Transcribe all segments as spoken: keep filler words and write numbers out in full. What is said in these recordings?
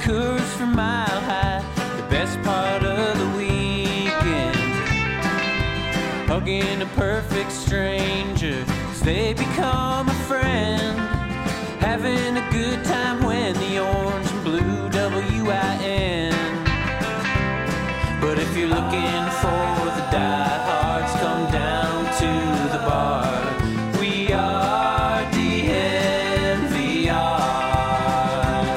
Coors from Mile High, the best part of the weekend. Hugging a perfect stranger as they become a friend. Having a good time when the orange and blue W I N. But if you're looking for the diehards, come down to the bar. We are D N V R.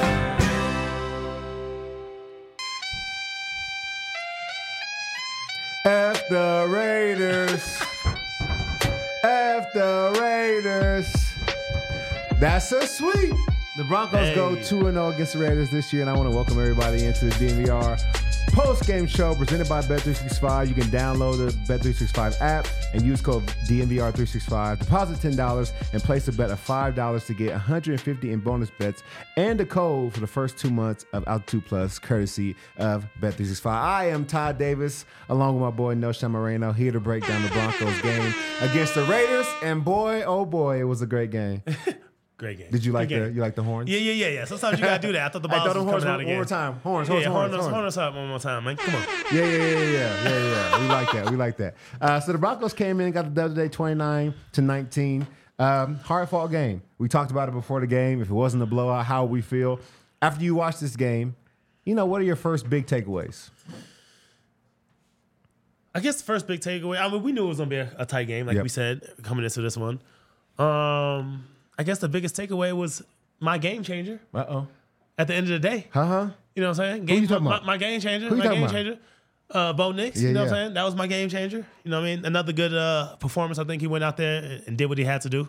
F the Raiders. F the Raiders. That's so sweet. The Broncos Hey. go two and oh against the Raiders this year, and I want to welcome everybody into the D N V R post-game show presented by Bet three sixty-five. You can download the Bet three sixty-five app and use code D N V R three sixty-five. Deposit ten dollars and place a bet of five dollars to get one hundred fifty in bonus bets and a code for the first two months of Altitude Plus, courtesy of Bet three sixty-five. I am Todd Davis, along with my boy Noshan Moreno, here to break down the Broncos game against the Raiders. And boy, oh boy, it was a great game. Great game. Did you like Good the game. you like the horns? Yeah, yeah, yeah, yeah. Sometimes you gotta do that. I thought the I balls thought the was horns coming one, out one more again. time. Horns, Yeah, horns, yeah, horns, horn us, horns. horn us up one more time, man. Come on. Yeah, yeah, yeah, yeah, yeah, yeah. We like that. We like that. Uh, so the Broncos came in and got the dub today, twenty-nine to nineteen. Um, hard fought game. We talked about it before the game. If it wasn't a blowout, how would we feel after you watch this game? You know, what are your first big takeaways? I guess the first big takeaway. I mean, we knew it was gonna be a, a tight game, like Yep. we said coming into this one. Um, I guess the biggest takeaway was my game changer. Uh oh. At the end of the day, Uh huh. you know what I'm saying? Who Game, you talking my, about? my game changer. Who you my talking game about? changer. Uh, Bo Nix. Yeah, you know what yeah. I'm saying? That was my game changer. You know what I mean? Another good uh, performance. I think he went out there and, and did what he had to do.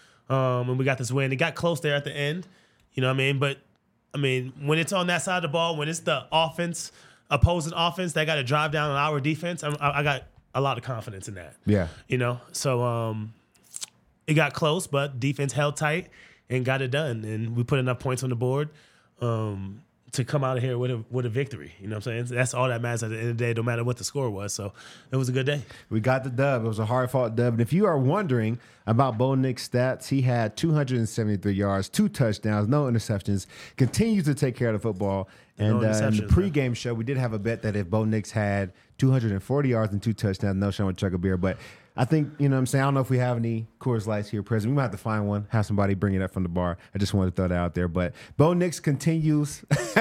Um, and we got this win. It got close there at the end. You know what I mean? But I mean, when it's on that side of the ball, when it's the offense, opposing offense that got to drive down on our defense, I, I got a lot of confidence in that. Yeah. You know, so um, it got close, but defense held tight and got it done. And we put enough points on the board um, to come out of here with a with a victory. You know what I'm saying? That's all that matters at the end of the day, no matter what the score was. So it was a good day. We got the dub. It was a hard-fought dub. And if you are wondering about Bo Nix' stats, he had two hundred seventy-three yards, two touchdowns, no interceptions, continues to take care of the football. And No uh, in the interceptions, pregame show, we did have a bet that if Bo Nix had two hundred forty yards and two touchdowns, no Sean would chug a beer. But I think, you know what I'm saying, I don't know if we have any Coors Lights here present. We might have to find one, have somebody bring it up from the bar. I just wanted to throw that out there. But Bo Nix continues.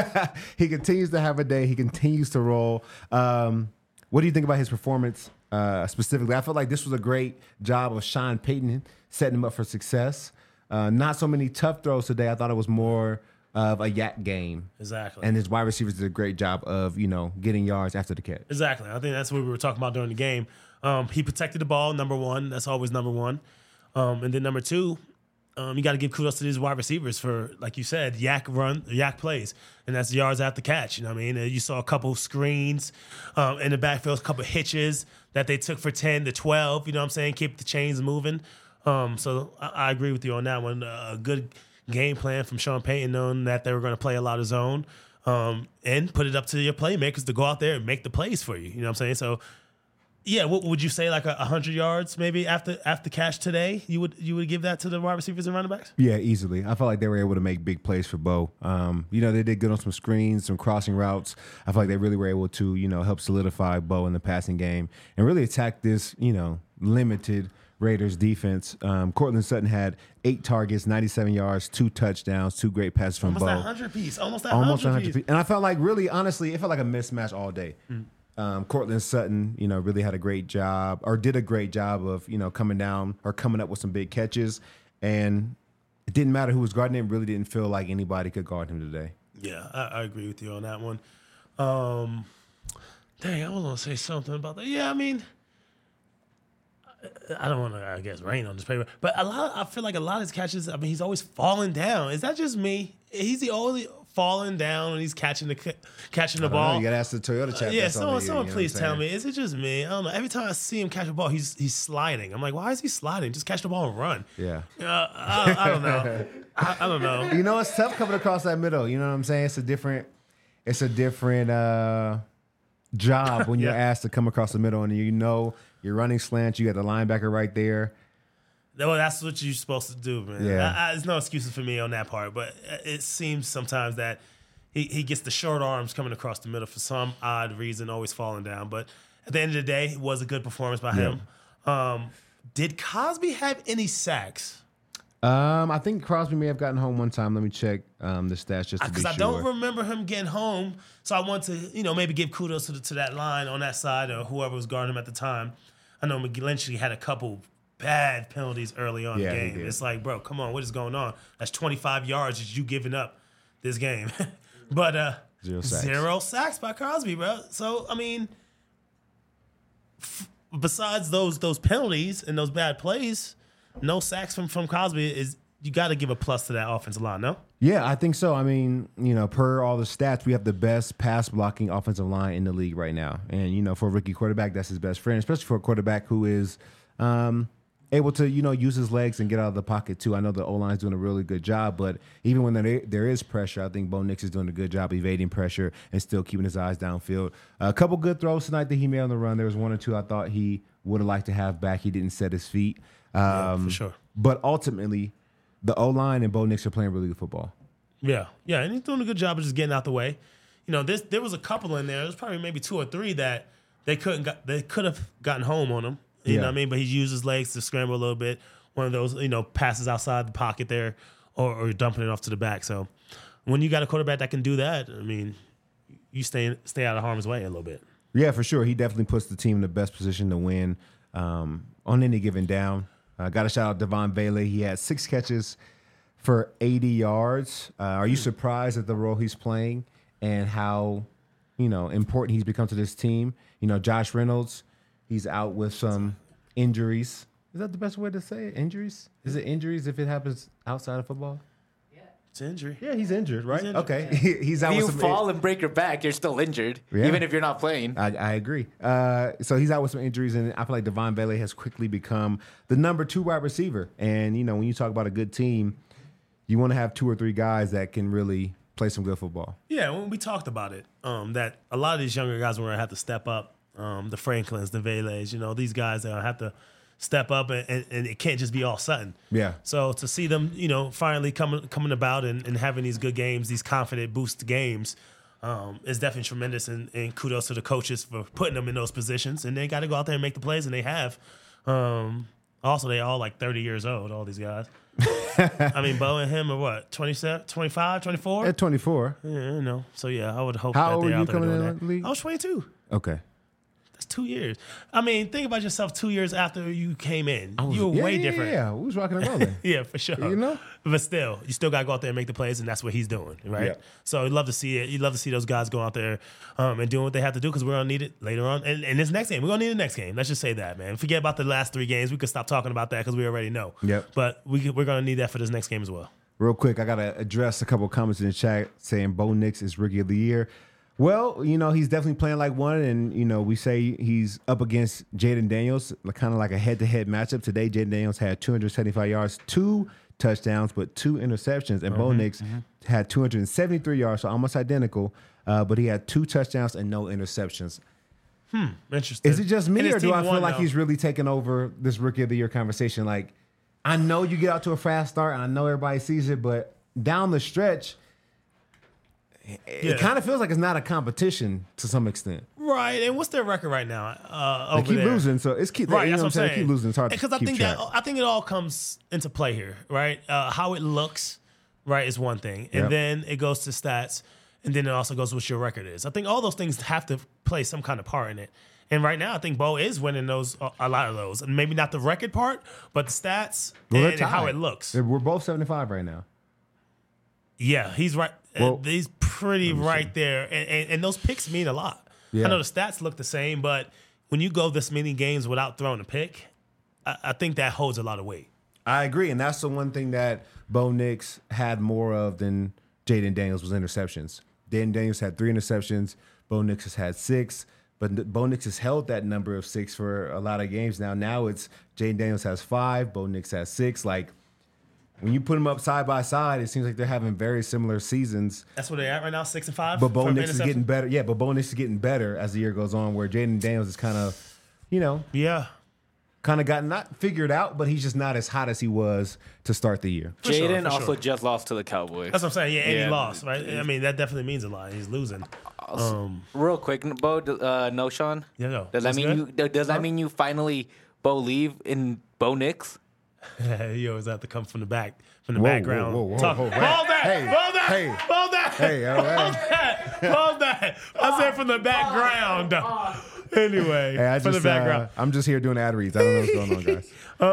He continues to have a day. He continues to roll. Um, what do you think about his performance uh, specifically? I feel like this was a great job of Sean Payton setting him up for success. Uh, not so many tough throws today. I thought it was more of a yak game. Exactly. And his wide receivers did a great job of, you know, getting yards after the catch. Exactly. I think that's what we were talking about during the game. Um, he protected the ball, number one. That's always number one. Um, and then number two, um, you got to give kudos to these wide receivers for, like you said, yak run, yak plays. And that's yards after catch. You know what I mean? And you saw a couple screens um, in the backfield, a couple hitches that they took for ten to twelve. You know what I'm saying? Keep the chains moving. Um, so I, I agree with you on that one. Uh, a good game plan from Sean Payton, knowing that they were going to play a lot of zone um, and put it up to your playmakers to go out there and make the plays for you. You know what I'm saying? So, yeah, what would you say, like a hundred yards maybe after after catch today? You would you would give that to the wide receivers and running backs? Yeah, easily. I felt like they were able to make big plays for Bo. Um, you know, they did good on some screens, some crossing routes. I feel like they really were able to, you know, help solidify Bo in the passing game and really attack this, you know, limited Raiders defense. Um, Cortland Sutton had eight targets, ninety-seven yards, two touchdowns, two great passes from Almost Bo. that hundred piece. Almost that Almost hundred one hundred piece. piece. And I felt like really, honestly, it felt like a mismatch all day. Mm. Um, Cortland Sutton, you know, really had a great job or did a great job of, you know, coming down or coming up with some big catches. And it didn't matter who was guarding him. Really didn't feel like anybody could guard him today. Yeah, I, I agree with you on that one. Um, dang, I was gonna say something about that. Yeah, I mean, I don't want to, I guess, rain on this paper, but a lot. Of, I feel like a lot of his catches. I mean, he's always falling down. Is that just me? He's the only falling down when he's catching the catching the I don't ball. know, you got to ask the Toyota chap. Uh, yeah, that's all someone, you, someone you know please what I'm tell saying? me. Is it just me? I don't know. Every time I see him catch a ball, he's he's sliding. I'm like, why is he sliding? Just catch the ball and run. Yeah. Uh, I, I don't know. I, I don't know. You know, it's tough coming across that middle. You know what I'm saying? It's a different, it's a different uh, job when you're Yeah. asked to come across the middle and you know you're running slants. You got the linebacker right there. Well, that's what you're supposed to do, man. Yeah. I, I, there's no excuses for me on that part, but it seems sometimes that he he gets the short arms coming across the middle for some odd reason, always falling down. But at the end of the day, it was a good performance by him. Um, did Cosby have any sacks? Um, I think Crosby may have gotten home one time. Let me check um, the stats just to be Because sure. I don't remember him getting home, so I want to, you know, maybe give kudos to, the, to that line on that side or whoever was guarding him at the time. I know McGlinchey had a couple bad penalties early on Yeah, in the he game. did. It's like, bro, come on, what is going on? That's twenty-five yards that you giving up this game. but uh, Zero sacks. zero sacks by Crosby, bro. So, I mean, f- besides those those penalties and those bad plays, no sacks from, from Crosby is you got to give a plus to that offensive line, no? Yeah, I think so. I mean, you know, per all the stats, we have the best pass blocking offensive line in the league right now. And, you know, for a rookie quarterback, that's his best friend, especially for a quarterback who is um, able to, you know, use his legs and get out of the pocket, too. I know the O-line's doing a really good job, but even when there, there is pressure, I think Bo Nix is doing a good job evading pressure and still keeping his eyes downfield. A couple good throws tonight that he made on the run. There was one or two I thought he would have liked to have back. He didn't set his feet. Um, Yeah, for sure. But ultimately, the O-line and Bo Nix are playing really good football. Yeah, yeah, and he's doing a good job of just getting out the way. You know, this there was a couple in there. There was probably maybe two or three that they couldn't got, they could have gotten home on him. You Yeah. know what I mean? But he used his legs to scramble a little bit. One of those, you know, passes outside the pocket there, or, or dumping it off to the back. So when you got a quarterback that can do that, I mean, you stay stay out of harm's way a little bit. Yeah, for sure. He definitely puts the team in the best position to win um, on any given down. Uh, got to shout out Devon Bailey. He had six catches for eighty yards. Uh, are you surprised at the role he's playing and how, you know, important he's become to this team? You know, Josh Reynolds, he's out with some injuries. Is that the best way to say it? Injuries? Is it injuries if it happens outside of football? It's an injury. Yeah, he's injured, right? injured, Okay. he's out If with you some fall and break your back, you're still injured, Yeah. even if you're not playing. I, I agree. Uh, so he's out with some injuries, and I feel like Devon Bailey has quickly become the number two wide receiver. And, you know, when you talk about a good team, you want to have two or three guys that can really play some good football. Yeah, when we talked about it, um, that a lot of these younger guys were going to have to step up. Um, the Franklins, the Vele's, you know, these guys that have to step up, and, and, and it can't just be all Sutton. Yeah. So to see them, you know, finally coming coming about and, and having these good games, these confident boost games, um, is definitely tremendous. And, and kudos to the coaches for putting them in those positions. And they got to go out there and make the plays, and they have. Um, also, they all like thirty years old, all these guys. I mean, Bo and him are what, twenty-seven, twenty-five, twenty-four? At twenty-four. Yeah, you know. So yeah, I would hope How that old they're were you out there coming doing in that. the league? I was twenty-two. Okay. That's two years. I mean, think about yourself two years after you came in. I was- You were yeah, way yeah, different. Yeah, we was rocking and rolling. Yeah, for sure. You know? But still, you still got to go out there and make the plays, and that's what he's doing, right? Yeah. So you'd love to see it. You'd love to see those guys go out there um, and doing what they have to do because we're going to need it later on. And, and this next game, we're going to need the next game. Let's just say that, man. Forget about the last three games. We could stop talking about that because we already know. Yep. But we, could- we're going to need that for this next game as well. Real quick, I got to address a couple of comments in the chat saying Bo Nix is Rookie of the Year. Well, you know, he's definitely playing like one, and, you know, we say he's up against Jaden Daniels, kind of like a head-to-head matchup. Today, Jaden Daniels had two hundred seventy-five yards, two touchdowns, but two interceptions, and Bo Nix had two hundred seventy-three yards, so almost identical, uh, but he had two touchdowns and no interceptions. Interesting. Is it just And me, his or do team I feel won, like though. he's really taking over this Rookie of the Year conversation? Like, I know you get out to a fast start, and I know everybody sees it, but down the stretch, it, Yeah. it kind of feels like it's not a competition to some extent. Right, and what's their record right now? Uh, They over keep there? losing, so it's keep. Right, you that's know what I'm saying. They keep losing. It's hard because to I keep think track. that I think it all comes into play here, right? Uh, how it looks, right, is one thing, and Yep. then it goes to stats, and then it also goes to what your record is. I think all those things have to play some kind of part in it. And right now, I think Bo is winning those a lot of those, and maybe not the record part, but the stats Well, they're and, and how tied. it looks. They're- We're both seventy-five right now. Yeah, he's right. uh, Well, he's pretty right there, and, and and those picks mean a lot. Yeah. I know the stats look the same, but when you go this many games without throwing a pick, I, I think that holds a lot of weight. I agree, and that's the one thing that Bo Nix had more of than Jaden Daniels was interceptions. Jaden Daniels had three interceptions. Bo Nix has had six, but Bo Nix has held that number of six for a lot of games now. Now it's Jaden Daniels has five, Bo Nix has six. Like, when you put them up side by side, it seems like they're having very similar seasons. That's where they're at right now, six and five. But Bo for Nix is interception? getting better. Yeah, but Bo Nix is getting better as the year goes on, where Jaden Daniels is kind of, you know, Yeah, kind of got not figured out, but he's just not as hot as he was to start the year. For sure, Jaden for also sure. just lost to the Cowboys. That's what I'm saying. Yeah, and Yeah. he lost, right? I mean, that definitely means a lot. He's losing. Um, Real quick, Bo, uh, no, Sean. Yeah, no. Does that What's mean good? you? Does that mean you finally Bo leave in Bo Nix? you always have to come from the back, from the Whoa, background. whoa, whoa, whoa, Talk. whoa, Hold hey, that! hey, Hold that! hey. Hold that! Hey, all right. Hold that! Hold that! I said from the background. Anyway, Hey, I from just, the background. uh, I'm just here doing ad reads. I don't know what's going on, guys.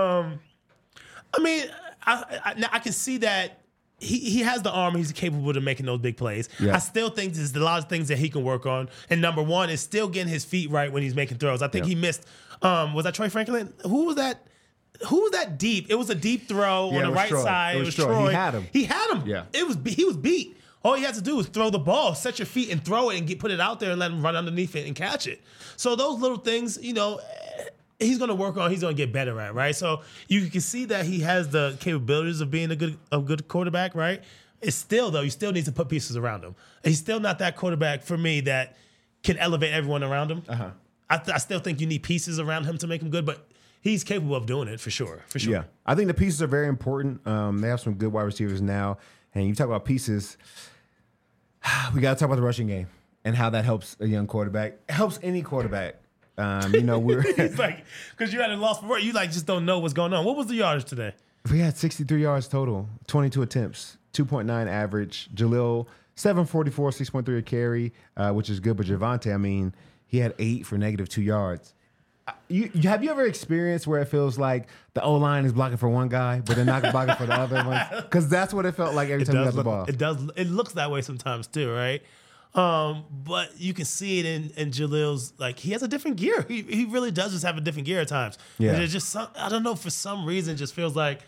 I mean, I, I, now I can see that he, he has the arm. He's capable of making those big plays. Yeah. I still think there's a lot of things that he can work on. And number one is still getting his feet right when he's making throws. I think Yeah. he missed. Um, was that Troy Franklin? Who was that? Who was that deep? It was a deep throw Yeah, on it the was right Troy. side. It It was was Troy. Troy. He had him. He had him. Yeah. It was he was beat. All he had to do was throw the ball, set your feet, and throw it, and get put it out there, and let him run underneath it and catch it. So those little things, you know, eh, he's going to work on. He's going to get better at, right? So you can see that he has the capabilities of being a good a good quarterback, right? It's still though, you still need to put pieces around him. He's still not that quarterback for me that can elevate everyone around him. Uh-huh. I, th- I still think you need pieces around him to make him good, but he's capable of doing it for sure. For sure. Yeah, I think the pieces are very important. Um, they have some good wide receivers now, and you talk about pieces. We got to talk about the rushing game and how that helps a young quarterback. It helps any quarterback. Um, you know, we're It's like because you had a loss before, you like just don't know what's going on. What was the yardage today? we had sixty-three yards total, twenty-two attempts, two point nine average. Jalil seven forty-four, six point three a carry, uh, which is good. But Javonte, I mean, he had eight for negative two yards. You, you have you ever experienced where it feels like the O line is blocking for one guy, but they're not blocking for the other one? Because that's what it felt like every It time we got does, the look, ball. it does. It looks that way sometimes too, right? Um, but you can see it in, in Jalil's, like, he has a different gear. He he really does just have a different gear at times. Yeah. And it's just some, I don't know, for some reason, it just feels like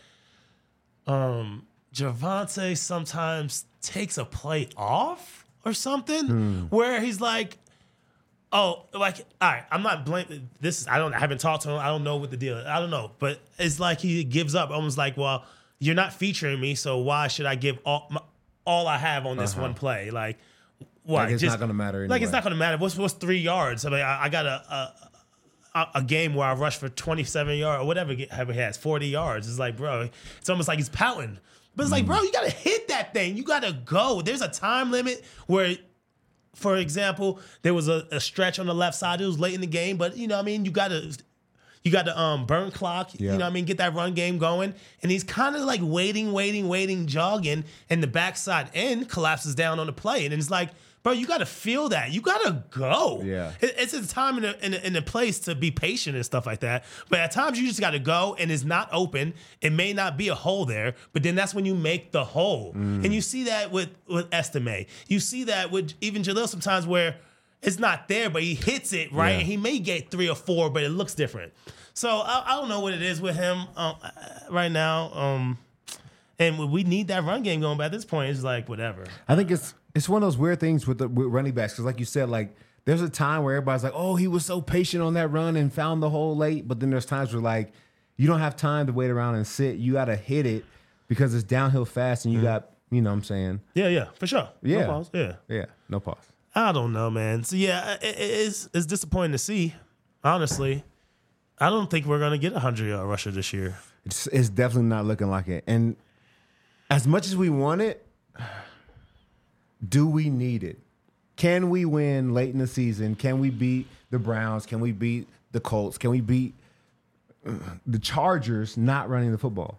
um, Javonte sometimes takes a play off or something Hmm. where he's like, oh, like, all right, I'm not blaming this. Is, I don't, I haven't talked to him. I don't know what the deal is. I don't know. But it's like he gives up, almost like, well, you're not featuring me, so why should I give all my, all I have on this one play? Like, what? Like it's not gonna matter Like, it's anyway. not going to matter. What's what's three yards? I mean, I, I got a, a a game where I rushed for twenty-seven yards or whatever he has, forty yards. It's like, bro, it's almost like he's pouting. But it's like, bro, you got to hit that thing. You got to go. There's a time limit where, for example, there was a, a stretch on the left side. It was late in the game, but you know what I mean? You got to you got to um, burn clock, Yeah. you know what I mean? Get that run game going. And he's kind of like waiting, waiting, waiting, jogging, and the backside end collapses down on the play. And it's like, bro, you got to feel that. You got to go. Yeah. It- It's a time and a, and, a, and a place to be patient and stuff like that. But at times you just got to go and it's not open. It may not be a hole there, but then that's when you make the hole. And you see that with, with Estime. You see that with even Jalil sometimes where it's not there, but he hits it, right? Yeah. And he may get three or four, but it looks different. So I, I don't know what it is with him um, right now. Um, and we need that run game going, but at this point, it's like, whatever. I think it's it's one of those weird things with the with running backs because, like you said, like there's a time where everybody's like, "Oh, he was so patient on that run and found the hole late," but then there's times where like you don't have time to wait around and sit. You got to hit it because it's downhill fast, and you got you know what I'm saying, Yeah, yeah, for sure. Yeah. No pause. Yeah. yeah, no pause. I don't know, man. So yeah, it, it's it's disappointing to see. Honestly, I don't think we're gonna get a hundred yard rusher this year. It's it's definitely not looking like it. And as much as we want it, do we need it? Can we win late in the season? Can we beat the Browns? Can we beat the Colts? Can we beat uh, the Chargers not running the football?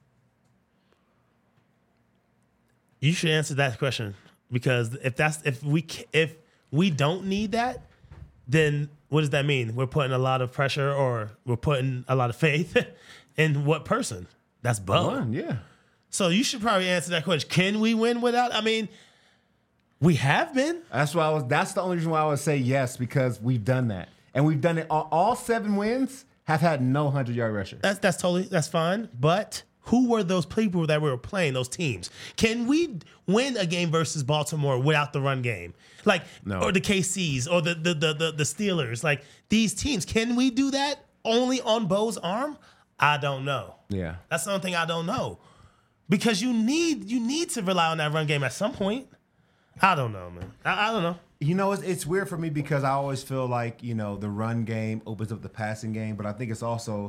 You should answer that question because if that's if we ca- if we don't need that, then what does that mean? We're putting a lot of pressure or we're putting a lot of faith in what person? That's Bo. One, yeah. So you should probably answer that question. Can we win without? I mean, we have been. That's why I was. That's the only reason why I would say yes because we've done that, and we've done it. All, all seven wins have had no hundred yard rusher. That's that's totally that's fine. But who were those people that we were playing? Those teams? Can we win a game versus Baltimore without the run game? Like No. or the K Cs or the the, the the the Steelers? Like these teams? Can we do that only on Bo's arm? I don't know. Yeah. That's the only thing I don't know. Because you need you need to rely on that run game at some point. I don't know, man. I, I don't know. You know, it's, it's weird for me because I always feel like, you know, the run game opens up the passing game, but I think it's also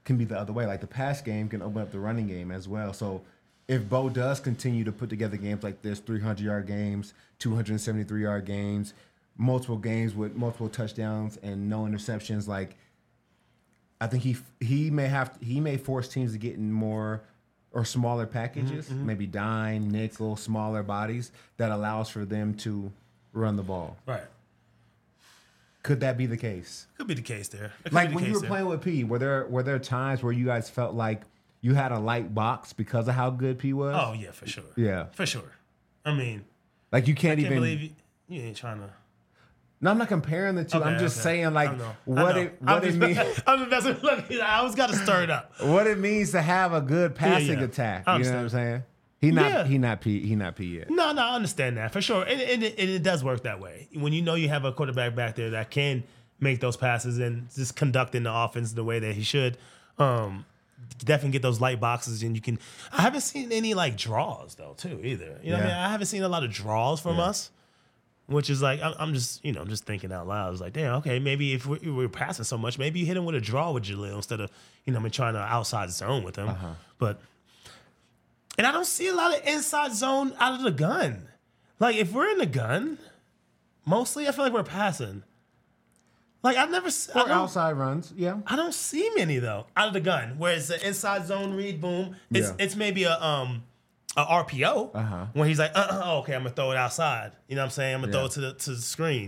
can be the other way. Like the pass game can open up the running game as well. So if Bo does continue to put together games like this, three hundred yard games, two hundred seventy-three yard games, multiple games with multiple touchdowns and no interceptions, like I think he he may have he may force teams to get in more or smaller packages, mm-hmm. maybe dime, nickel, smaller bodies that allows for them to run the ball. Right. Could that be the case? Could be the case there. Like the when case you were there. playing with P, were there were there times where you guys felt like you had a light box because of how good P was? Oh yeah, for sure. Yeah, for sure. I mean, like you can't, I can't even believe you, you ain't trying to. No, I'm not comparing the two. Okay, I'm just okay. saying, like, what it I'm what it just, means. I'm just, look, I always got to stir it up. What it means to have a good passing yeah. attack. I You know what I'm understand. saying? He not Yeah. he not P he not P yet. No, no, I understand that for sure, and, and, it, and it does work that way. When you know you have a quarterback back there that can make those passes and just conducting the offense the way that he should, um, definitely get those light boxes, and you can. I haven't seen any like draws though, too, either. You know, what I Yeah. mean, I haven't seen a lot of draws from Yeah. us. Which is like I'm, I'm just you know I'm just thinking out loud. I was like, damn, okay, maybe if we're, we're passing so much, maybe you hit him with a draw with Jaleel instead of you know I mean, trying to outside zone with him. Uh-huh. But and I don't see a lot of inside zone out of the gun. Like if we're in the gun, mostly I feel like we're passing. Like I've never s- I Or don't- outside runs, yeah. I don't see many though out of the gun. Whereas the inside zone read, boom, it's Yeah. it's maybe a um a R P O Uh-huh. when he's like, uh, uh, oh, okay, I'm gonna throw it outside. You know what I'm saying? I'm gonna Yeah. throw it to the to the screen.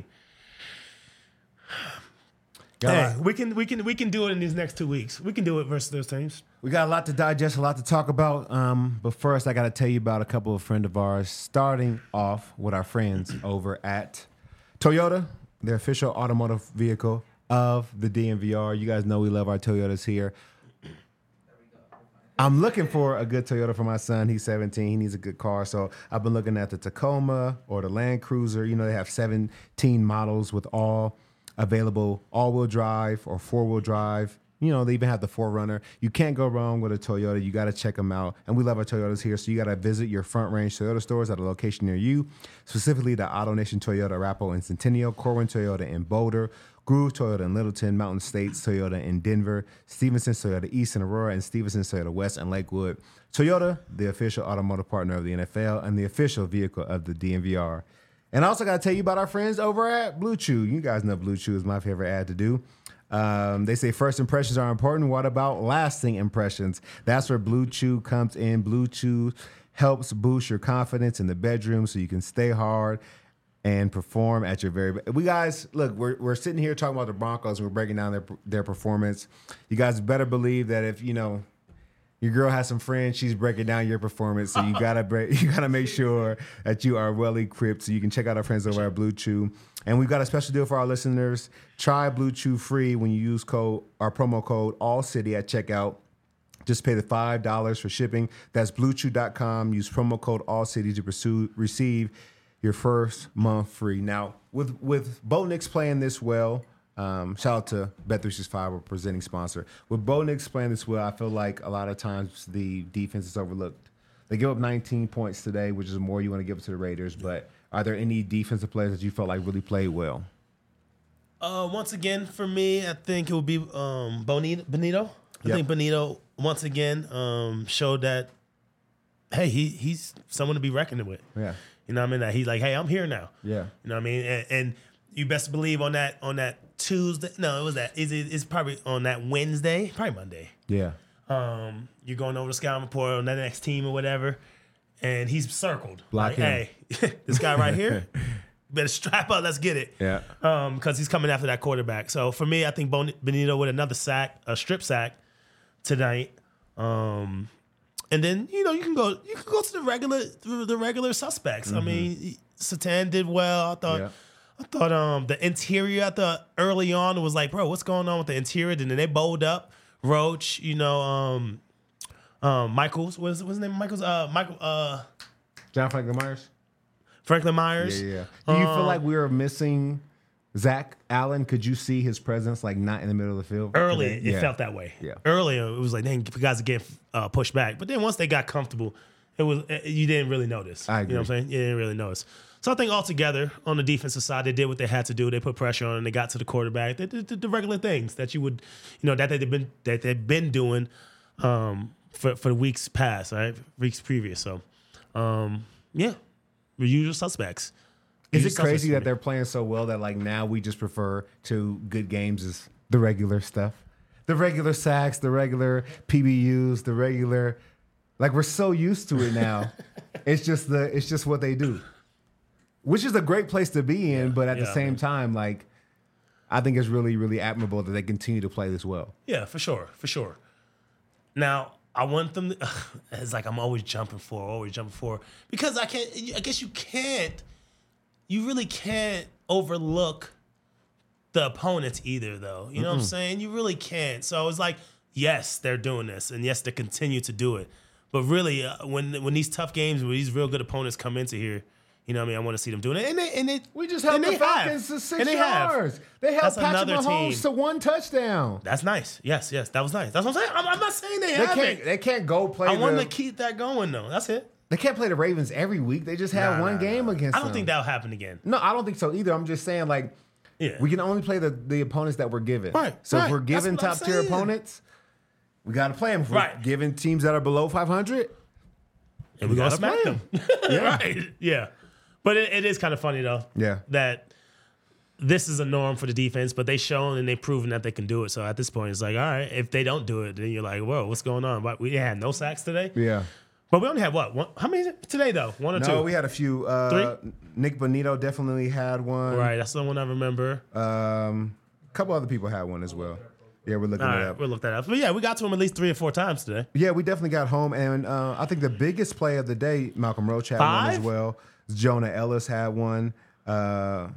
Got a Hey, lot- we can we can we can do it in these next two weeks. We can do it versus those teams. We got a lot to digest, a lot to talk about. Um, but first, I got to tell you about a couple of friends of ours. Starting off with our friends over at Toyota, the official automotive vehicle of the D M V R. You guys know we love our Toyotas here. I'm looking for a good Toyota for my son. He's seventeen. He needs a good car. So I've been looking at the Tacoma or the Land Cruiser. You know, they have seventeen models with all available all-wheel drive or four-wheel drive. You know, they even have the four runner. You can't go wrong with a Toyota. You got to check them out. And we love our Toyotas here. So you got to visit your Front Range Toyota stores at a location near you, specifically the Auto Nation Toyota Arapahoe and Centennial, Corwin Toyota in Boulder, Groove Toyota in Littleton, Mountain States Toyota in Denver, Stevenson Toyota East in Aurora, and Stevenson Toyota West in Lakewood. Toyota, the official automotive partner of the N F L and the official vehicle of the D M V R. And I also got to tell you about our friends over at Blue Chew. You guys know Blue Chew is my favorite ad to do. Um, they say first impressions are important. What about lasting impressions? That's where Blue Chew comes in. Blue Chew helps boost your confidence in the bedroom so you can stay hard and perform at your very best. We guys, look, we're we're sitting here talking about the Broncos and we're breaking down their their performance. You guys better believe that if, you know, your girl has some friends, she's breaking down your performance. So you gotta break, you gotta make sure that you are well equipped. So you can check out our friends over at Blue Chew. And we've got a special deal for our listeners. Try Blue Chew free when you use code our promo code AllCity at checkout. Just pay the five dollars for shipping. That's blue chew dot com. Use promo code AllCity to pursue, receive your first month free. Now, with with Bo Nix playing this well, um, shout out to Bet three sixty-five, our presenting sponsor. With Bo Nix playing this well, I feel like a lot of times the defense is overlooked. They give up nineteen points today, which is more you want to give it to the Raiders. But are there any defensive players that you felt like really played well? Uh, once again, for me, I think it would be um, Bonito. Benito. I Yep. think Benito once again um, showed that, hey, he he's someone to be reckoned with. Yeah. You know what I mean? That he's like, hey, I'm here now. Yeah. You know what I mean? And, and you best believe on that on that Tuesday. No, it was that. Is it? It's probably on that Wednesday, probably Monday. Yeah. Um, you're going over the scouting report on that next team or whatever, and he's circled. Block like, him. hey, this guy right here, better strap up. Let's get it. Yeah. Um, because he's coming after that quarterback. So for me, I think Bon- Benito with another sack, a strip sack tonight. Um, and then you know you can go you can go to the regular the regular suspects. I mean, Satan did well. I thought. Yeah. I thought um the interior. I thought early on it was like, bro, what's going on with the interior? And then they bowled up. Roach, you know, um, um, Michaels. What's what's his name? Michaels. Uh, Michael. Uh, John Franklin Myers? Franklin Myers. Yeah, yeah. Do you feel Um, like we were missing Zach Allen? Could you see his presence like not in the middle of the field? Early, today? it Yeah. felt that way. Yeah. Earlier, it was like, dang, guys are getting uh, pushed back. But then once they got comfortable it was you didn't really notice. I You know what I'm saying? You didn't really notice. So I think altogether on the defensive side, they did what they had to do. They put pressure on and they got to the quarterback. They did the regular things that you would, you know, that they've been that they've been doing um, for for the weeks past, right? Weeks previous. So um, yeah, the usual suspects. Is Usual it suspects crazy for that me. they're playing so well that like now we just prefer to good games is the regular stuff, the regular sacks, the regular P B Us, the regular, like we're so used to it now. It's just the it's just what they do, which is a great place to be in. But at the yeah, same man. time, like I think it's really really admirable that they continue to play this well. Yeah, for sure, for sure. Now, I want them to, it's like I'm always jumping for, always jumping for, because I can't, I guess you can't, you really can't overlook the opponents either, though. You know what I'm saying? You really can't. So it's like, yes, they're doing this, and yes, they continue to do it. But really, uh, when when these tough games, when these real good opponents come into here, you know what I mean? I want to see them doing it. And they, and they, We just and held the they Falcons have. to six And they have. yards. They held That's Patrick another Mahomes team. to one touchdown. That's nice. Yes, yes, that was nice. That's what I'm saying. I'm, I'm not saying they, They haven't. can't they can't go play. I want the, to keep that going, though. That's it. They can't play the Ravens every week. They just had Nah, one nah, game nah. against I don't them. think that'll happen again. No, I don't think so either. I'm just saying, like, Yeah. we can only play the, the opponents that we're given. Right, So right. if we're That's given what I'm top tier saying. opponents, we got to play them. If we're Right. given teams that are below five hundred, and we, gotta gotta smack play them. Yeah. Right. Yeah. But it, it is kind of funny though. Yeah. That this is a norm for the defense, but they've shown and they've proven that they can do it. So at this point, it's like, all right, if they don't do it, then you're like, whoa, what's going on? But we had no sacks today. yeah. But we only had what? One, how many today though? One or No, two? we had a few. Uh, Nick Bonito definitely had one. Right. That's the one I remember. Um, a couple other people had one as well. Yeah, we're looking All it right, up. we'll look that up. But yeah, we got to him at least three or four times today. Yeah, we definitely got home, and uh, I think the biggest play of the day, Malcolm Roach had one as Five? well. Jonah Ellis had one. Uh,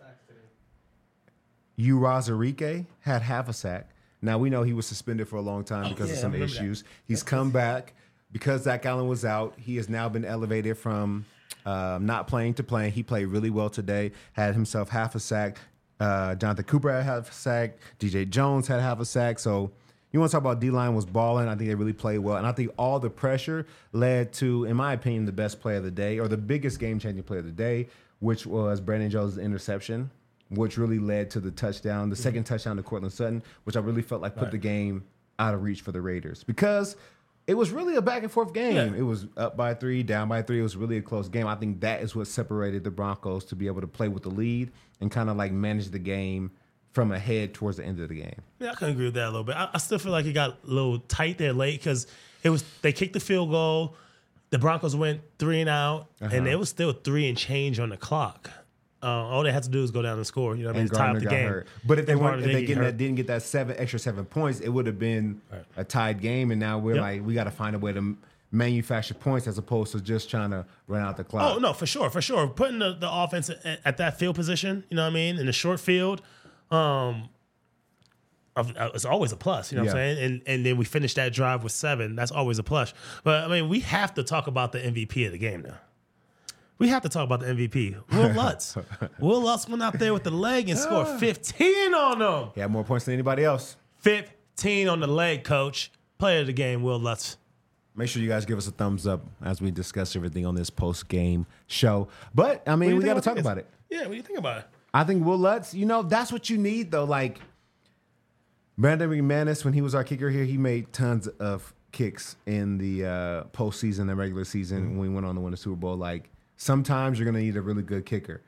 Urazarike had half a sack. Now we know he was suspended for a long time because yeah, of I some remember that. issues. He's come back because Zach Allen was out. He has now been elevated from um, not playing to playing. He played really well today. Had himself half a sack. Uh, Jonathan Cooper had half a sack. D J Jones had half a sack. So you want to talk about D-line was balling. I think they really played well. And I think all the pressure led to, in my opinion, the best play of the day or the biggest game-changing play of the day, which was Brandon Jones' interception, which really led to the touchdown, the Mm-hmm. second touchdown to Cortland Sutton, which I really felt like put the game out of reach for the Raiders because it was really a back and forth game. Yeah. It was up by three, down by three. It was really a close game. I think that is what separated the Broncos to be able to play with the lead and kind of like manage the game from ahead towards the end of the game. Yeah, I can agree with that a little bit. I, I still feel like it got a little tight there late because it was they kicked the field goal, the Broncos went three and out, Uh-huh. and it was still three and change on the clock. Uh, all they had to do was go down and score. You know what I mean? And To tie up Gardner the got game. hurt. But if they And weren't, Gardner if they did get get that, hurt. didn't get that seven extra seven points, it would have been a tied game. And now we're Yep. like, we got to find a way to m- manufacture points as opposed to just trying to run out the clock. Oh no, for sure, for sure. Putting the, the offense at, at that field position, you know what I mean, in the short field, um, of- uh, it's always a plus. You know what Yeah. I'm saying? And and then we finish that drive with seven. That's always a plus. But I mean, we have to talk about the M V P of the game now. We have to talk about the M V P. Will Lutz. Will Lutz went out there with the leg and scored fifteen on them. He had more points than anybody else. fifteen on the leg, coach. Player of the game, Will Lutz. Make sure you guys give us a thumbs up as we discuss everything on this post game show. But I mean, we got to talk about it. Yeah, what do you think about it? I think Will Lutz, you know, that's what you need though. Like Brandon McManus, when he was our kicker here, he made tons of kicks in the uh, postseason and regular season when we went on to win the Super Bowl. Like sometimes you're gonna need a really good kicker.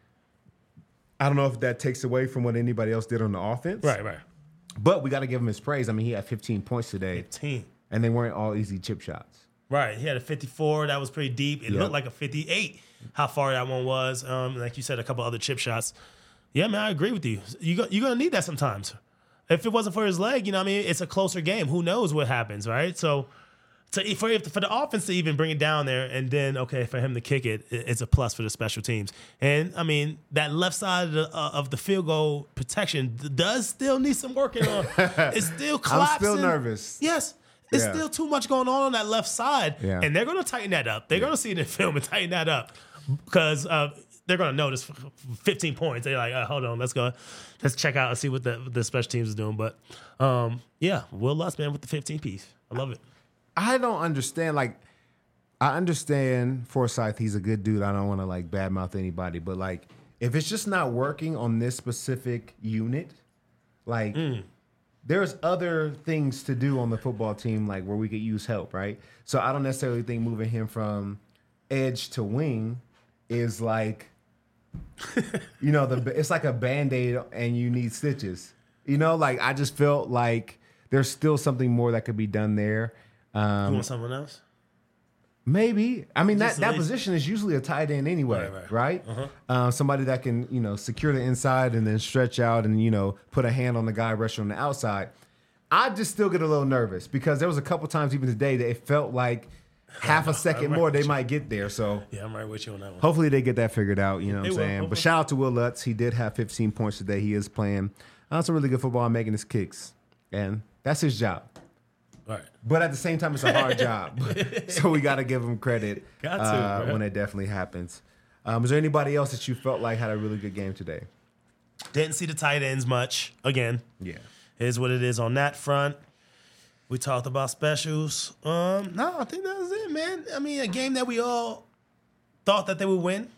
I don't know if that takes away from what anybody else did on the offense. Right, right. But we got to give him his praise. I mean, he had fifteen points today, fifteen. and they weren't all easy chip shots. Right. He had a fifty-four. That was pretty deep. It Yep. looked like a fifty-eight, how far that one was. Um, like you said, a couple other chip shots. Yeah, man, I agree with you. You go, you're going to need that sometimes. If it wasn't for his leg, you know what I mean? It's a closer game. Who knows what happens, right? So to, for, for the offense to even bring it down there and then, okay, for him to kick it, it- it's a plus for the special teams. And, I mean, that left side of the, uh, of the field goal protection d- does still need some working on. It's still I'm collapsing. still nervous. Yes. There's Yeah. still too much going on on that left side. Yeah. And they're going to tighten that up. They're going to see it in film and tighten that up because uh, they're going to notice fifteen points. They're like, uh, hold on, let's go. Let's check out and see what the, the special teams is doing. But, um, yeah, Will Lutz, man, with the fifteen piece. I love it. I don't understand. Like, I understand Forsyth. He's a good dude. I don't want to like badmouth anybody, but like if it's just not working on this specific unit, like Mm. there's other things to do on the football team, like where we could use help, right? So I don't necessarily think moving him from edge to wing is like, you know, the it's like a Band-Aid and you need stitches. You know, like I just felt like there's still something more that could be done there. You Um, want someone else? Maybe. I mean, that, Just that lazy. position is usually a tight end anyway, Right, right? right. Uh, somebody that can, you know, secure the inside and then stretch out and, you know, put a hand on the guy rushing on the outside. I just still get a little nervous because there was a couple times even today that it felt like half a second right more they with you. might get there. So Yeah, I'm right with you on that one. hopefully they get that figured out, you know what They I'm will, saying? But hopefully. shout out to Will Lutz. He did have fifteen points today. He is playing uh, some really good football and making his kicks. And that's his job. All right. But at the same time, it's a hard job. So we got to give him credit Got to, uh, bro. when it definitely happens. Um, is there anybody else that you felt like had a really good game today? Didn't see the tight ends much. Again, Yeah. is what it is on that front. We talked about specials. Um, no, I think that was it, man. I mean, a game that we all thought that they would win.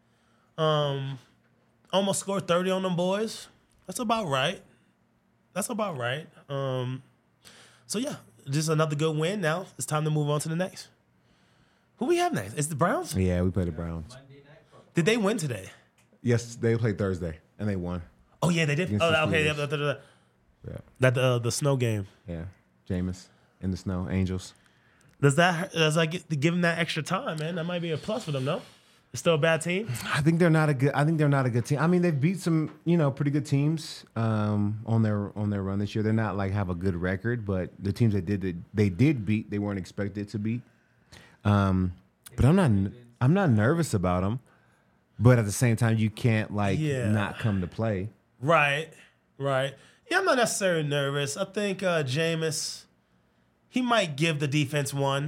Um, almost scored thirty on them boys. That's about right. That's about right. Um, so yeah, just another good win. Now it's time to move on to the next. Who we have next? It's the Browns. Yeah, we played the Browns. Did they win today? Yes, they played Thursday, and they won. Oh yeah, they did. Against Oh, the okay. Steelers. Yeah, da, da, da. Yeah. That uh, the snow game. Yeah. Jameis in the snow, Angels. Does that does that get, give them that extra time, man? That might be a plus for them, no? It's still a bad team. I think they're not a good. I think they're not a good team. I mean, they've beat some, you know, pretty good teams um, on their on their run this year. They're not like have a good record, but the teams they did that they did beat, they weren't expected to beat. Um, but I'm not I'm not nervous about them. But at the same time, you can't like Yeah. not come to play. Right, right. Yeah, I'm not necessarily nervous. I think uh, Jameis, he might give the defense one.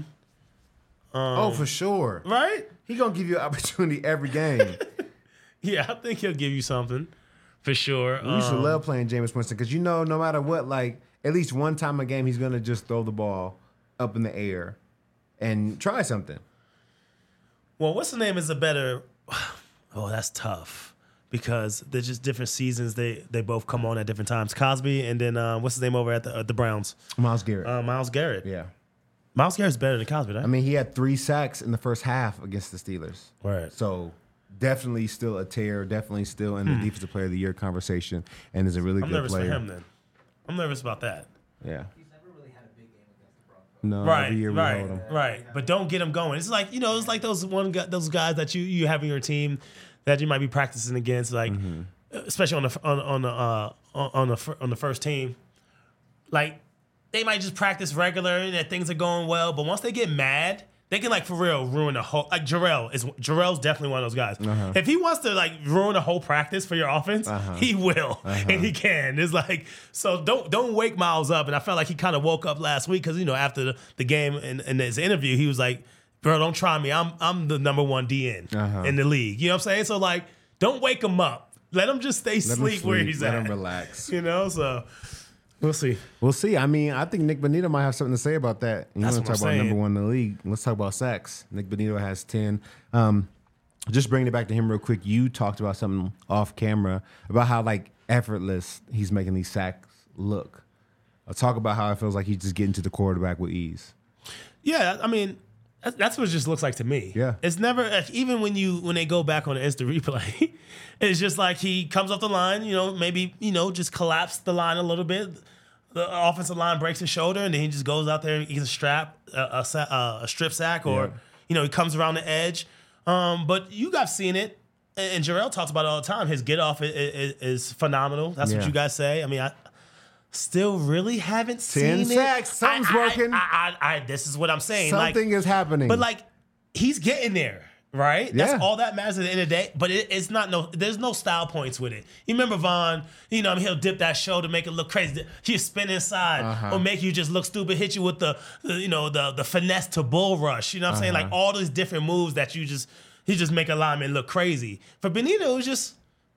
Um, oh, for sure. Right? He gonna give you an opportunity every game. Yeah, I think he'll give you something for sure. We used to Um, love playing Jameis Winston because you know, no matter what, like at least one time a game, he's gonna just throw the ball up in the air and try something. Well, what's the name is a better. Oh, that's tough because they're just different seasons. They they both come on at different times. Cosby and then uh, what's his name over at the at the Browns? Myles Garrett. Uh, Miles Garrett. yeah. Miles Garrett's better than Cosby, right? I mean, he had three sacks in the first half against the Steelers. Right. So definitely still a tear, definitely still in the Defensive Player of the Year conversation, and is a really Hmm. I'm good nervous player. for him then. I'm nervous about that. Yeah. He's never really had a big game against the Broncos. No, Right, every year we right, hold him. right. But don't get them going. It's like you know, it's like those one guy, those guys that you you have in your team that you might be practicing against, like especially on the on on the uh, on on the fir- on the first team. Like they might just practice regular and that things are going well, but once they get mad, they can like for real ruin the whole. Like Jarrell is Jarrell's definitely one of those guys. If he wants to like ruin the whole practice for your offense, he will, and he can. It's like so. Don't don't wake Miles up. And I felt like he kind of woke up last week because you know after the, the game and in his interview, he was like, "Bro, don't try me. I'm I'm the number one D N Uh-huh. in the league." You know what I'm saying? So like, don't wake him up. Let him just stay Let him sleep where sleep, he's let at. him relax. You know, so we'll see. We'll see. I mean, I think Nick Bonito might have something to say about that. You That's want to what talk I'm about number saying. one in the league? Let's talk about sacks. Nick Bonito has ten. Um, just bringing it back to him real quick. You talked about something off camera about how like effortless he's making these sacks look. I'll talk about how it feels like he's just getting to the quarterback with ease. Yeah, I mean, that's, that's what it just looks like to me. Yeah. It's never like, even when you when they go back on the instant replay, it's just like he comes off the line, you know, maybe you know just collapse the line a little bit. The offensive line breaks his shoulder, and then he just goes out there and gets a strap, a, a, sa- a strip sack, or Yeah. you know he comes around the edge. Um, but you guys seen it, and, and Jarrell talks about it all the time. His get off is, is, is phenomenal. That's Yeah. what you guys say. I mean, I still really haven't Ten seen sacks. it. Something's I- I- working. I, I, I, this is what I'm saying. Like, Something is happening. but like, he's getting there, right? Yeah. That's all that matters at the end of the day. But it, it's not no. There's no style points with it. You remember Vaughn? You know, I mean, he'll dip that shoulder, make it look crazy. He'll spin inside, Uh-huh. or make you just look stupid. Hit you with the, the you know, the the finesse to bull rush. You know what I'm saying? Like Uh-huh. all these different moves that you just he just make a lineman look crazy. For Benito, it was just.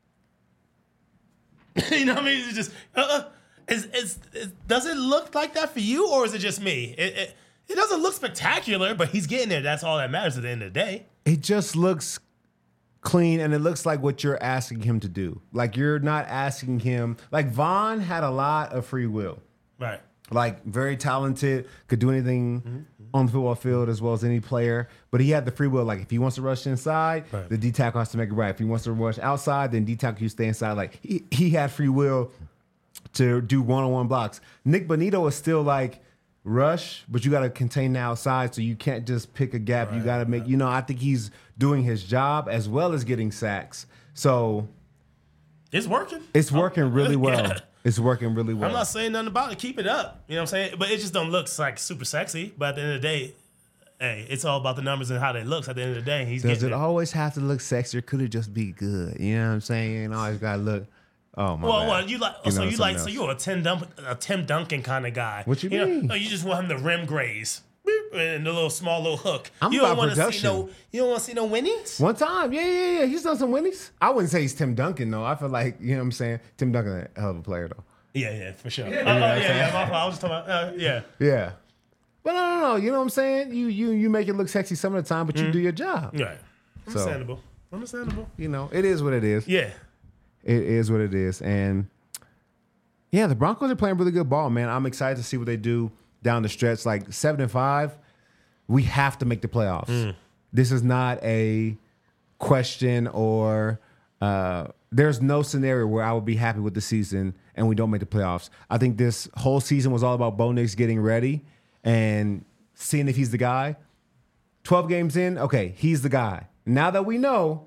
You know what I mean? It's just. Uh, is, is, is, does it look like that for you, or is it just me? It, it, It doesn't look spectacular, but he's getting there. That's all that matters at the end of the day. It just looks clean, and it looks like what you're asking him to do. Like you're not asking him. Like Vaughn had a lot of free will. Right. Like very talented, could do anything mm-hmm. on the football field as well as any player. But he had the free will. Like if he wants to rush inside, right. the D tackle has to make it right. If he wants to rush outside, then D tackle you stay inside. Like he, he had free will to do one on one blocks. Nick Bonito is still like rush, but you got to contain the outside, so you can't just pick a gap. Right, you got to make. Right. You know, I think he's doing his job as well as getting sacks. So it's working. It's working I'm, really well. Yeah. It's working really well. I'm not saying nothing about it. Keep it up. You know what I'm saying? But it just don't look like super sexy. But at the end of the day, hey, it's all about the numbers and how they look. At the end of the day, he's Does getting it there. always have to look sexy, or could it just be good? You know what I'm saying? You ain't always got to look. Oh my. Well, bad. well, you like You so know you like something so else. you're a Tim Dun- a Tim Duncan kind of guy. What you know? mean? Oh, you just want him to rim graze. Beep, and the little small little hook. I'm you don't about want to see production. no. You don't want to see no winnings. One time, yeah, yeah, yeah. He's done some winnies. I wouldn't say he's Tim Duncan though. I feel like you know what I'm saying. Tim Duncan, a hell of a player though. Yeah, yeah, for sure. Yeah, oh, oh, yeah, yeah. My fault. I was just talking about. Uh, yeah. Yeah, but no, no, no. You know what I'm saying? You you you make it look sexy some of the time, but you do your job. Right. Understandable. Understandable. You know, it is what it is. Yeah. It is what it is, and yeah, the Broncos are playing really good ball, man. I'm excited to see what they do down the stretch. Like seven and five, we have to make the playoffs. Mm. This is not a question, or uh, there's no scenario where I would be happy with the season and we don't make the playoffs. I think this whole season was all about Bo Nix getting ready and seeing if he's the guy. twelve games in, okay, he's the guy. Now that we know,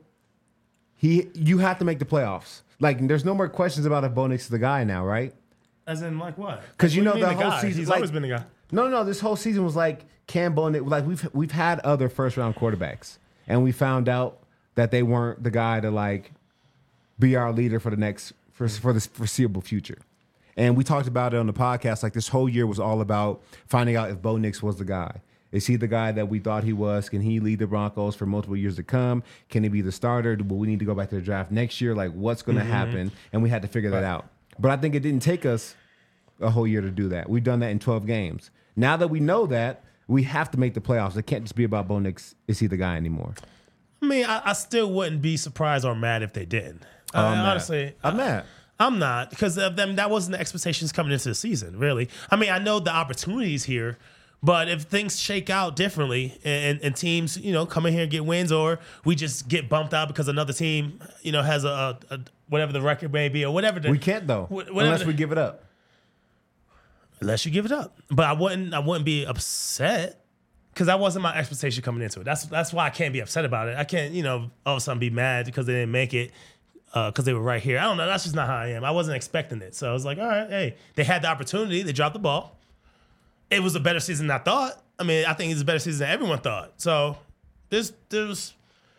he, you have to make the playoffs. Like, there's no more questions about if Bo Nix is the guy now, right? As in, like what? Because you What know do the mean whole guy? season. He's like, always been the guy. No, no, this whole season was like Cam Bo Nix. Like we've we've had other first round quarterbacks, and we found out that they weren't the guy to like be our leader for the next for for the foreseeable future. And we talked about it on the podcast. Like this whole year was all about finding out if Bo Nix was the guy. Is he the guy that we thought he was? Can he lead the Broncos for multiple years to come? Can he be the starter? Will we need to go back to the draft next year? Like, what's going to mm-hmm. happen? And we had to figure that out. But I think it didn't take us a whole year to do that. We've done that in twelve games. Now that we know that, we have to make the playoffs. It can't just be about Bo Nix. Is he the guy anymore? I mean, I, I still wouldn't be surprised or mad if they didn't. Oh, I I'm mean, mad. honestly, I'm mad. I'm not, because of them. That wasn't the expectations coming into the season, really. I mean, I know the opportunities here, but if things shake out differently and, and teams, you know, come in here and get wins, or we just get bumped out because another team, you know, has a, a, a whatever the record may be or whatever. The, We can't though, wh- whatever unless the- we give it up. Unless you give it up. But I wouldn't I wouldn't be upset because that wasn't my expectation coming into it. That's that's why I can't be upset about it. I can't, you know, all of a sudden be mad because they didn't make it because uh, they were right here. I don't know. That's just not how I am. I wasn't expecting it. So I was like, all right, hey, they had the opportunity. They dropped the ball. It was a better season than I thought. I mean, I think it's a better season than everyone thought. So there's there's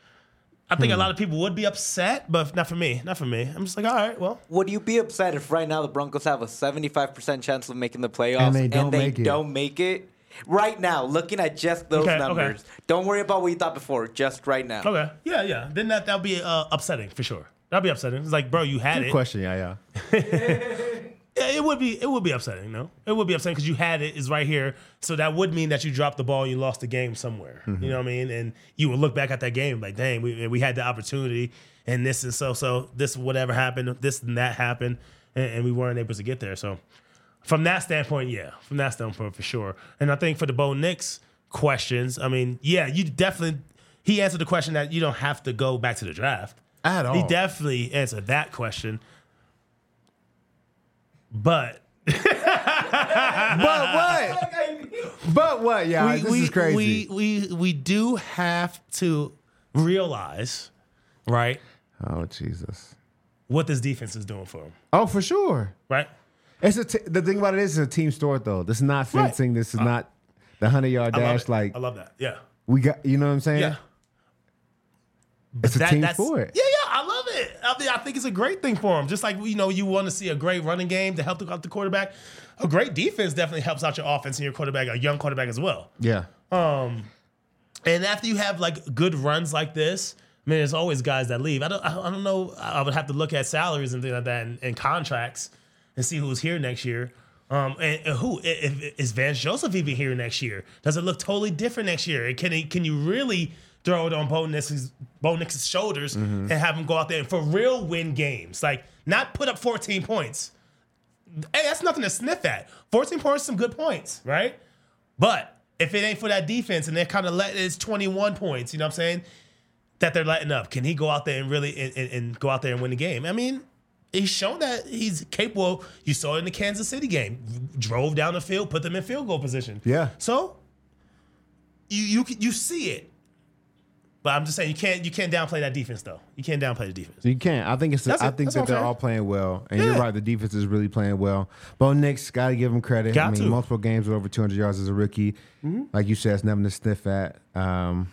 I think Hmm. a lot of people would be upset, but not for me. Not for me. I'm just like, all right, well. Would you be upset if right now the Broncos have a seventy-five percent chance of making the playoffs And they don't make it. don't make it? Right now, looking at just those Okay, okay. numbers. Don't worry about what you thought before, just right now. Okay. Yeah, yeah. Then that that'll be uh, upsetting for sure. That'll be upsetting. It's like, bro, you had Good it. question, yeah, yeah. Yeah, it would be it would be upsetting, no? It would be upsetting because you had it, is right here. So that would mean that you dropped the ball and you lost the game somewhere. Mm-hmm. You know what I mean? And you would look back at that game like, dang, we we had the opportunity and this and so so this whatever happened, this and that happened, and, and we weren't able to get there. So from that standpoint, yeah, from that standpoint for sure. And I think for the Bo Nix questions, I mean, yeah, you definitely he answered the question that you don't have to go back to the draft. At all. He definitely answered that question. But But what? But what? Yeah, we, this we, is crazy. We, we we do have to realize, right, oh Jesus. what this defense is doing for him, Oh, for sure. right? It's a t- the thing about it is it's a team sport though. This is not Right. fencing. This is not the hundred yard I love dash. it. Like I love that. Yeah, we got, you know what I'm saying? yeah. It's a That- team that's- sport. Yeah, yeah, I love it. I, mean, I think it's a great thing for him. Just like, you know, you want to see a great running game to help the, out the quarterback. A great defense definitely helps out your offense and your quarterback, a young quarterback as well. Yeah. Um, and after you have like good runs like this, I mean, there's always guys that leave. I don't, I don't know. I would have to look at salaries and things like that and, and contracts and see who's here next year. Um, and, and who if, is Vance Joseph even here next year? Does it look totally different next year? Can he, can you really throw it on Bo Nix's, Bo Nix's shoulders Mm-hmm. and have him go out there and for real win games? Like not put up fourteen points. Hey, that's nothing to sniff at. fourteen points, some good points, right? But if it ain't for that defense and they're kind of letting it's twenty-one points, you know what I'm saying? That they're letting up. Can he go out there and really and, and, and go out there and win the game? I mean, he's shown that he's capable. You saw it in the Kansas City game. Drove down the field, put them in field goal position. Yeah. So you you you see it. But I'm just saying you can't you can't downplay that defense though. You can't downplay the defense. You can't. I think it's. That's I it. think That's that what I'm they're saying. all playing well, and you're Yeah. right. The defense is really playing well. Bo Nix, got to give him credit. Got I mean, to. multiple games with over two hundred yards as a rookie. Mm-hmm. Like you said, it's nothing to sniff at. Um,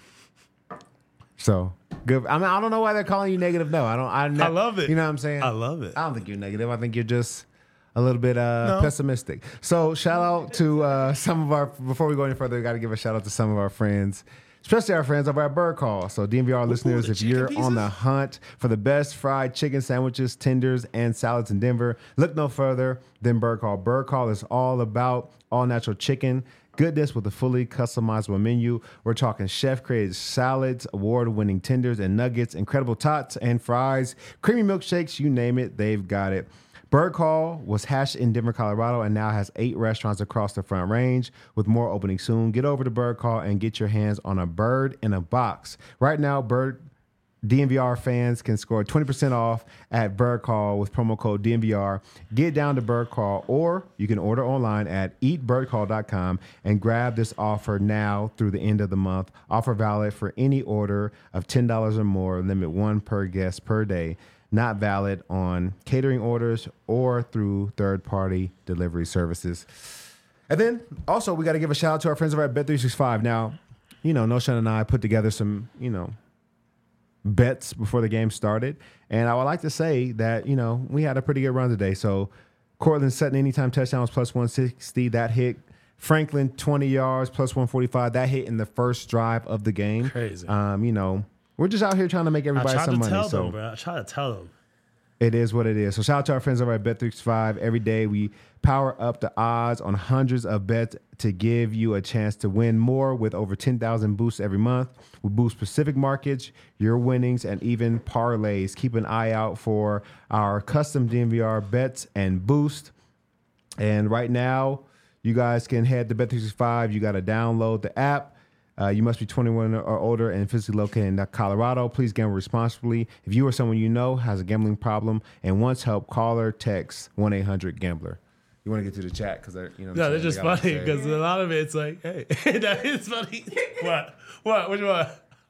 so good. I mean, I don't know why they're calling you negative. No, I don't. I, ne- I love it. You know what I'm saying? I love it. I don't think you're negative. I think you're just a little bit uh, No. pessimistic. So shout out to uh, some of our. Before we go any further, we got to give a shout out to some of our friends. Especially our friends over at Bird Call. So D M V R listeners, the if you're chicken on the pieces? hunt for the best fried chicken sandwiches, tenders, and salads in Denver, look no further than Bird Call. Bird Call is all about all natural chicken goodness with a fully customizable menu. We're talking chef-created salads, award-winning tenders and nuggets, incredible tots and fries, creamy milkshakes, you name it, they've got it. Bird Call was hatched in Denver, Colorado, and now has eight restaurants across the Front Range, with more opening soon. Get over to Bird Call and get your hands on a bird in a box. Right now, Bird D M V R fans can score twenty percent off at Bird Call with promo code D M V R. Get down to Bird Call, or you can order online at eat bird call dot com and grab this offer now through the end of the month. Offer valid for any order of ten dollars or more. Limit one per guest per day. Not valid on catering orders or through third-party delivery services. And then also we got to give a shout out to our friends over at Bet three sixty-five. Now, you know, Noshan and I put together some, you know, bets before the game started. And I would like to say that, you know, we had a pretty good run today. So Cortland Sutton anytime touchdown was plus one sixty. That hit. Franklin twenty yards plus one forty-five. That hit in the first drive of the game. Crazy. Um, you know, we're just out here trying to make I everybody tried some to money. tell so them, bro. I tried to tell them. it is what it is. So shout out to our friends over at Bet three sixty-five. Every day we power up the odds on hundreds of bets to give you a chance to win more with over ten thousand boosts every month. We boost specific markets, your winnings, and even parlays. Keep an eye out for our custom D M V R bets and boost. And right now, you guys can head to Bet three sixty-five. You got to download the app. Uh, you must be twenty-one or older and physically located in Colorado. Please gamble responsibly. If you or someone you know has a gambling problem and wants help, call or text one eight hundred gambler. You want to get to the chat because they're, you know. No, they're they just got a lot to funny say. because a lot of it's like, hey, that is funny. What? What? Which one?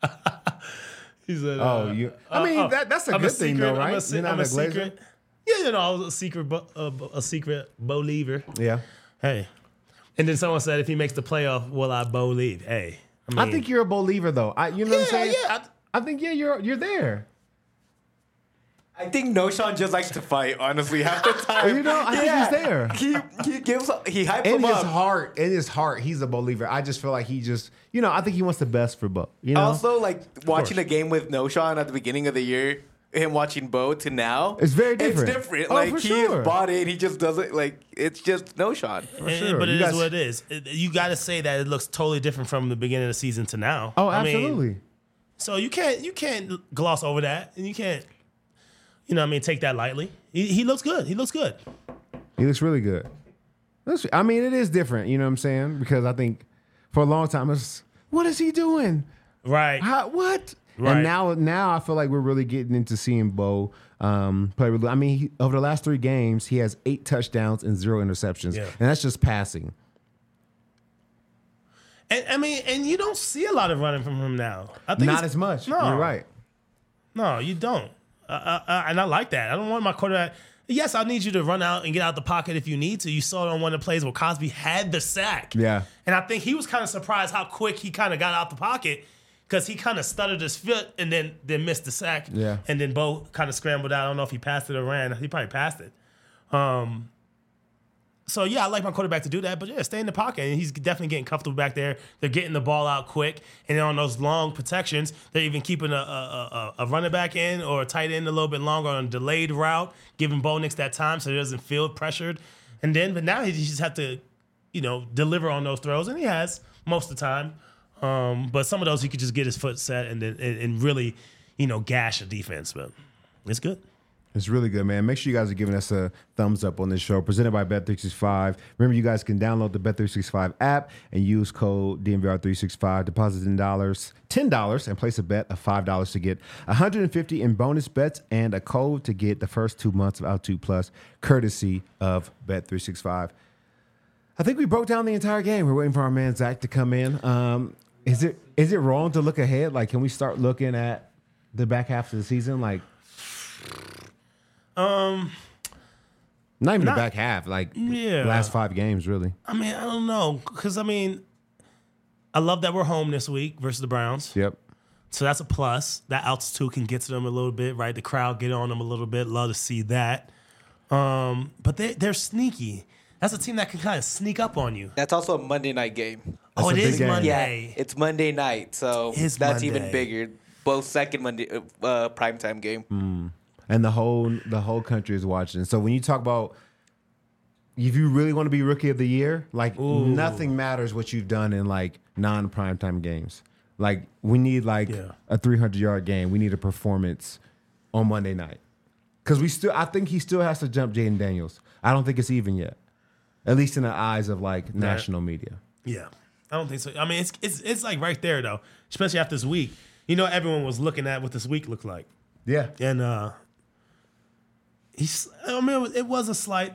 He said, Oh, uh, you. I mean, uh, that, that's a I'm good thing, secret- though, I'm right? a, se- You're not I'm a a Glazer? secret. Yeah, you know, I was a secret, bo- uh, a secret believer. Yeah. Hey, and then someone said, if he makes the playoff, will I believe? Hey, I, mean, I think you're a believer, though. I, you know what I'm yeah, saying? yeah. I think, yeah, you're you're there. I think Noshan just likes to fight, honestly, half the time. You know, I think he's there. He he gives he hypes In him his up. heart, in his heart, he's a believer. I just feel like he just, you know, I think he wants the best for Bo. You know, Also, like watching course. a game with Noshan at the beginning of the year, him watching Bo to now, It's very different. It's different. Oh, like for he sure. is bought in. He just doesn't like. It's just Noshan. And- sure. But You it is guys- what it is. It- you got to say that it looks totally different from the beginning of the season to now. oh, I mean, absolutely. so you can't you can't gloss over that, and you can't, you know, what I mean, take that lightly. He, he looks good. He looks good. He looks really good. That's- I mean, it is different. You know what I'm saying? Because I think for a long time, it's what is he doing? Right. How, what? Right. And now, now I feel like we're really getting into seeing Bo um, play. Really, I mean, he, over the last three games, he has eight touchdowns and zero interceptions, Yeah. and that's just passing. And I mean, and you don't see a lot of running from him now. I think Not it's- as much. No, You're right. No, you don't. Uh, uh, uh, and I like that. I don't want my quarterback. Yes, I need you to run out and get out the pocket if you need to. You saw it on one of the plays where Cosby had the sack. Yeah. And I think he was kind of surprised how quick he kind of got out the pocket because he kind of stuttered his foot and then then missed the sack. Yeah. And then Bo kind of scrambled out. I don't know if he passed it or ran. He probably passed it. Um. So, yeah, I like my quarterback to do that. But, yeah, stay in the pocket. And he's definitely getting comfortable back there. They're getting the ball out quick. And then on those long protections, they're even keeping a, a, a, a running back in or a tight end a little bit longer on a delayed route, giving Bo Nix that time so he doesn't feel pressured. And then, but now he just have to, you know, deliver on those throws, and he has most of the time. Um, but some of those he could just get his foot set and then and, and really, you know, gash a defense. But it's good. It's really good, man. Make sure you guys are giving us a thumbs up on this show. Presented by Bet three sixty-five. Remember, you guys can download the Bet three sixty-five app and use code D N V R three sixty-five. Deposit ten dollars, ten dollars, and place a bet of five dollars to get one hundred fifty dollars in bonus bets and a code to get the first two months of Altitude Plus, courtesy of Bet three sixty-five. I think we broke down the entire game. We're waiting for our man Zach to come in. Um, is it is it wrong to look ahead? Like, can we start looking at the back half of the season? Like, um, not even not, the back half. Like, yeah. last five games, really. I mean, I don't know, because I mean, I love that we're home this week versus the Browns. Yep. So that's a plus. That altitude can get to them a little bit, right? The crowd get on them a little bit. Love to see that. Um, but they they're sneaky. That's a team that can kind of sneak up on you. That's also a Monday night game. Oh, it a big is game. Monday. Yeah, it's Monday night, so It's that's Monday. even bigger. Both second Monday uh, primetime game. Mm. And the whole the whole country is watching. So when you talk about if you really want to be rookie of the year, like Ooh. nothing matters what you've done in like non primetime games. Like we need like Yeah. a three hundred yard game. We need a performance on Monday night because we still. I think he still has to jump Jaden Daniels. I don't think it's even yet, at least in the eyes of like national media. Yeah, I don't think so. I mean, it's it's it's like right there though, especially after this week. You know, everyone was looking at what this week looked like, Yeah, and uh he's. I mean, it was, it was a slight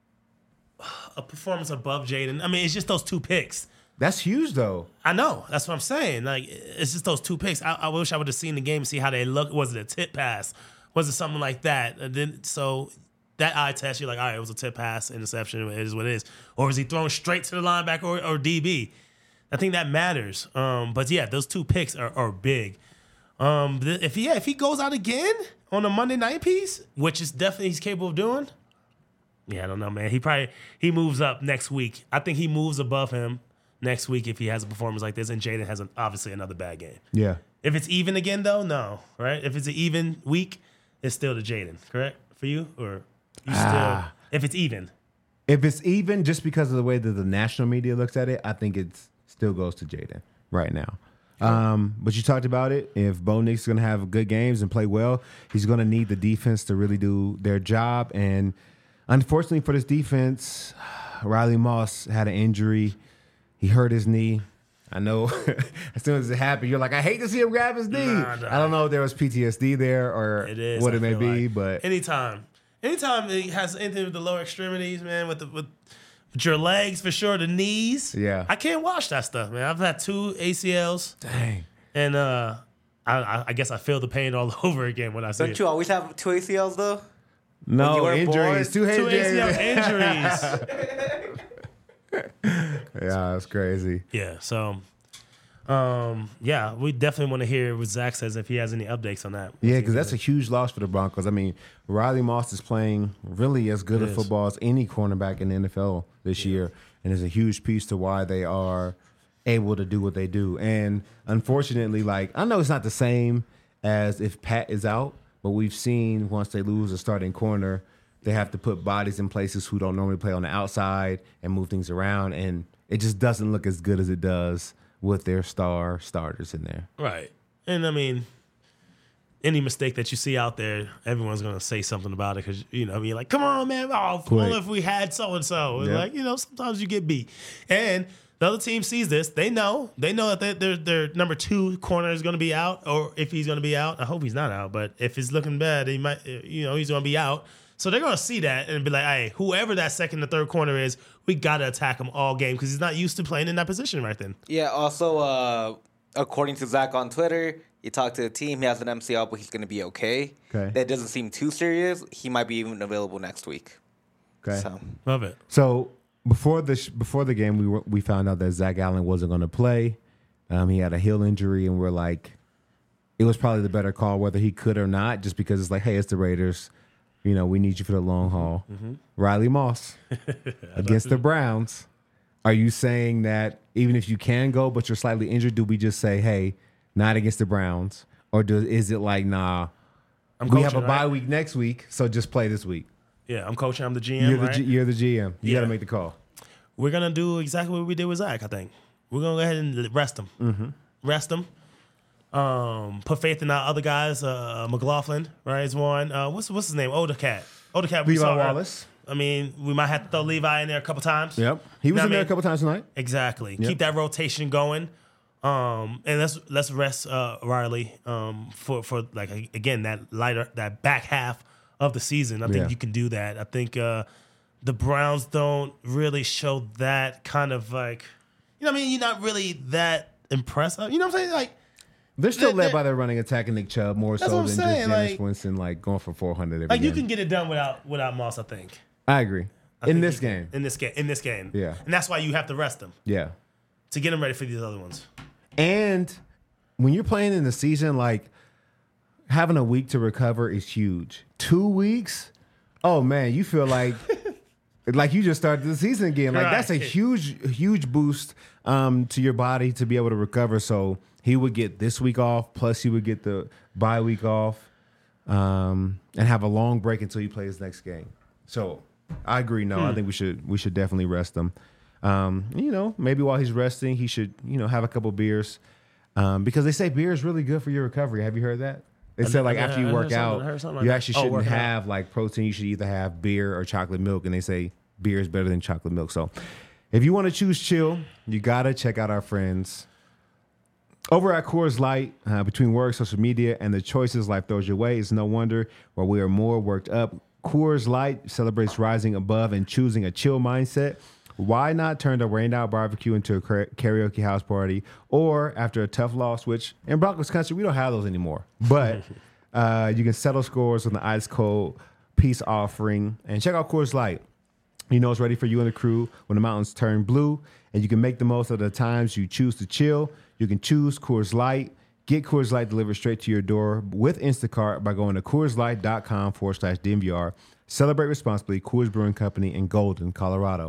a performance above Jaden. I mean, it's just those two picks. that's huge though. I know. That's what I'm saying. Like, it's just those two picks. I, I wish I would have seen the game and see how they look. Was it a tip pass? Was it something like that? And then so that eye test, you're like, all right, it was a tip pass, interception. It is what it is. Or is he thrown straight to the linebacker or, or D B? I think that matters. Um, but yeah, those two picks are, are big. Um, th- if he yeah, if he goes out again on a Monday night piece, which is definitely he's capable of doing. Yeah, I don't know, man. He probably he moves up next week. I think he moves above him next week if he has a performance like this, and Jaden has an, obviously another bad game. Yeah, If it's even again, though, no, right? If it's an even week, it's still to Jaden, correct for you, or you still? Ah. If it's even, if it's even, just because of the way that the national media looks at it, I think it still goes to Jaden right now. Um, but you talked about it. If Bo Nix is going to have good games and play well, he's going to need the defense to really do their job. And unfortunately for this defense, Riley Moss had an injury. He hurt his knee. I know as soon as it happened, you're like, I hate to see him grab his knee. Nah, nah. I don't know if there was P T S D there or it is what I it may feel be, like. but anytime, anytime it has anything with the lower extremities, man, with the with, with your legs for sure, the knees. Yeah. I can't watch that stuff, man. I've had two A C Ls, dang. and uh, I, I, I guess I feel the pain all over again when I see Don't it. you always have two A C Ls though? you No, were injuries. born- Two, Two A C L injuries. injuries. Yeah, that's crazy. Yeah, so um, yeah, we definitely want to hear what Zach says if he has any updates on that. Yeah, because that's a huge loss for the Broncos. I mean, Riley Moss is playing really as good It a is. football as any cornerback in the N F L this year, and is a huge piece to why they are able to do what they do. And unfortunately, like I know it's not the same as if Pat is out, but we've seen once they lose a starting corner, they have to put bodies in places who don't normally play on the outside and move things around, and it just doesn't look as good as it does with their star starters in there. Right. And I mean, any mistake that you see out there, everyone's going to say something about it because, you know, I mean, like, come on, man. Oh, Quick. only if we had so and so. Yeah. Like, you know, sometimes you get beat. And the other team sees this. They know. They know that their their their number two corner is going to be out, or if he's going to be out. I hope he's not out, but if it's looking bad, he might, you know, he's going to be out. So they're going to see that and be like, hey, whoever that second or third corner is, we got to attack him all game because he's not used to playing in that position right then. Yeah. Also, uh, according to Zach on Twitter, he talked to the team. He has an M C L, but he's going to be okay. Okay. That doesn't seem too serious. He might be even available next week. Okay. So Love it. So before the sh- before the game, we were, we found out that Zach Allen wasn't going to play. Um, he had a heel injury, and we're like, it was probably the better call whether he could or not, just because it's like, hey, it's the Raiders. You know, we need you for the long haul. Mm-hmm. Riley Moss against the Browns. Are you saying that even if you can go, but you're slightly injured, do we just say, hey, not against the Browns, or do is it like, nah, I'm we have a coaching, bye right? week next week, so just play this week? Yeah, I'm coaching. I'm the G M. You're the right? G, you're the G M. You Yeah. got to make the call. We're gonna do exactly what we did with Zach. I think we're gonna go ahead and rest him. Mm-hmm. Rest him. Um, put faith in our other guys. Uh, McLaughlin, right, is one. Uh, what's what's his name? Older cat. Older cat. We Levi saw her. Wallace. I mean, we might have to throw Levi in there a couple times. Yep. He was Know in what I there a mean? couple times tonight. Exactly. Yep. Keep that rotation going. Um, and let's let's rest uh, Riley um, for for like again that lighter that back half of the season. I think Yeah. you can do that. I think uh, the Browns don't really show that kind of like you know what I mean. You're not really that impressed. You know what I'm saying? Like They're still They're- led they're- by their running attack and Nick Chubb more That's so what than I'm just saying, Jameis like- Winston like going for four hundred every like you game. can get it done without without Moss. I think I agree. I in think this you can. game. In this game. In this game. Yeah. And that's why you have to rest them Yeah. to get them ready for these other ones. And when you're playing in the season, like having a week to recover is huge. Two weeks, oh man, you feel like like you just started the season again. Like that's a Right. huge, huge boost um, to your body to be able to recover. So he would get this week off, plus he would get the bye week off, um, and have a long break until he plays next game. So I agree. No, I think we should we should definitely rest him. Um, you know, maybe while he's resting, he should you know have a couple beers. Um, because they say beer is really good for your recovery. Have you heard that? They said like I- after I you heard work something- out, I heard something like you that. actually Oh, shouldn't working out. have like protein. You should either have beer or chocolate milk. And they say beer is better than chocolate milk. So if you want to choose chill, you gotta check out our friends over at Coors Light. Uh, between work, social media, and the choices life throws your way, it's no wonder why we are more worked up. Coors Light celebrates rising above and choosing a chill mindset. Why not turn the rained out barbecue into a kara- karaoke house party? Or after a tough loss, which in Broncos country, we don't have those anymore. But uh, you can settle scores with an ice cold peace offering. And check out Coors Light. You know it's ready for you and the crew when the mountains turn blue. And you can make the most of the times you choose to chill. You can choose Coors Light. Get Coors Light delivered straight to your door with Instacart by going to CoorsLight.com forward slash DNVR. Celebrate responsibly. Coors Brewing Company in Golden, Colorado.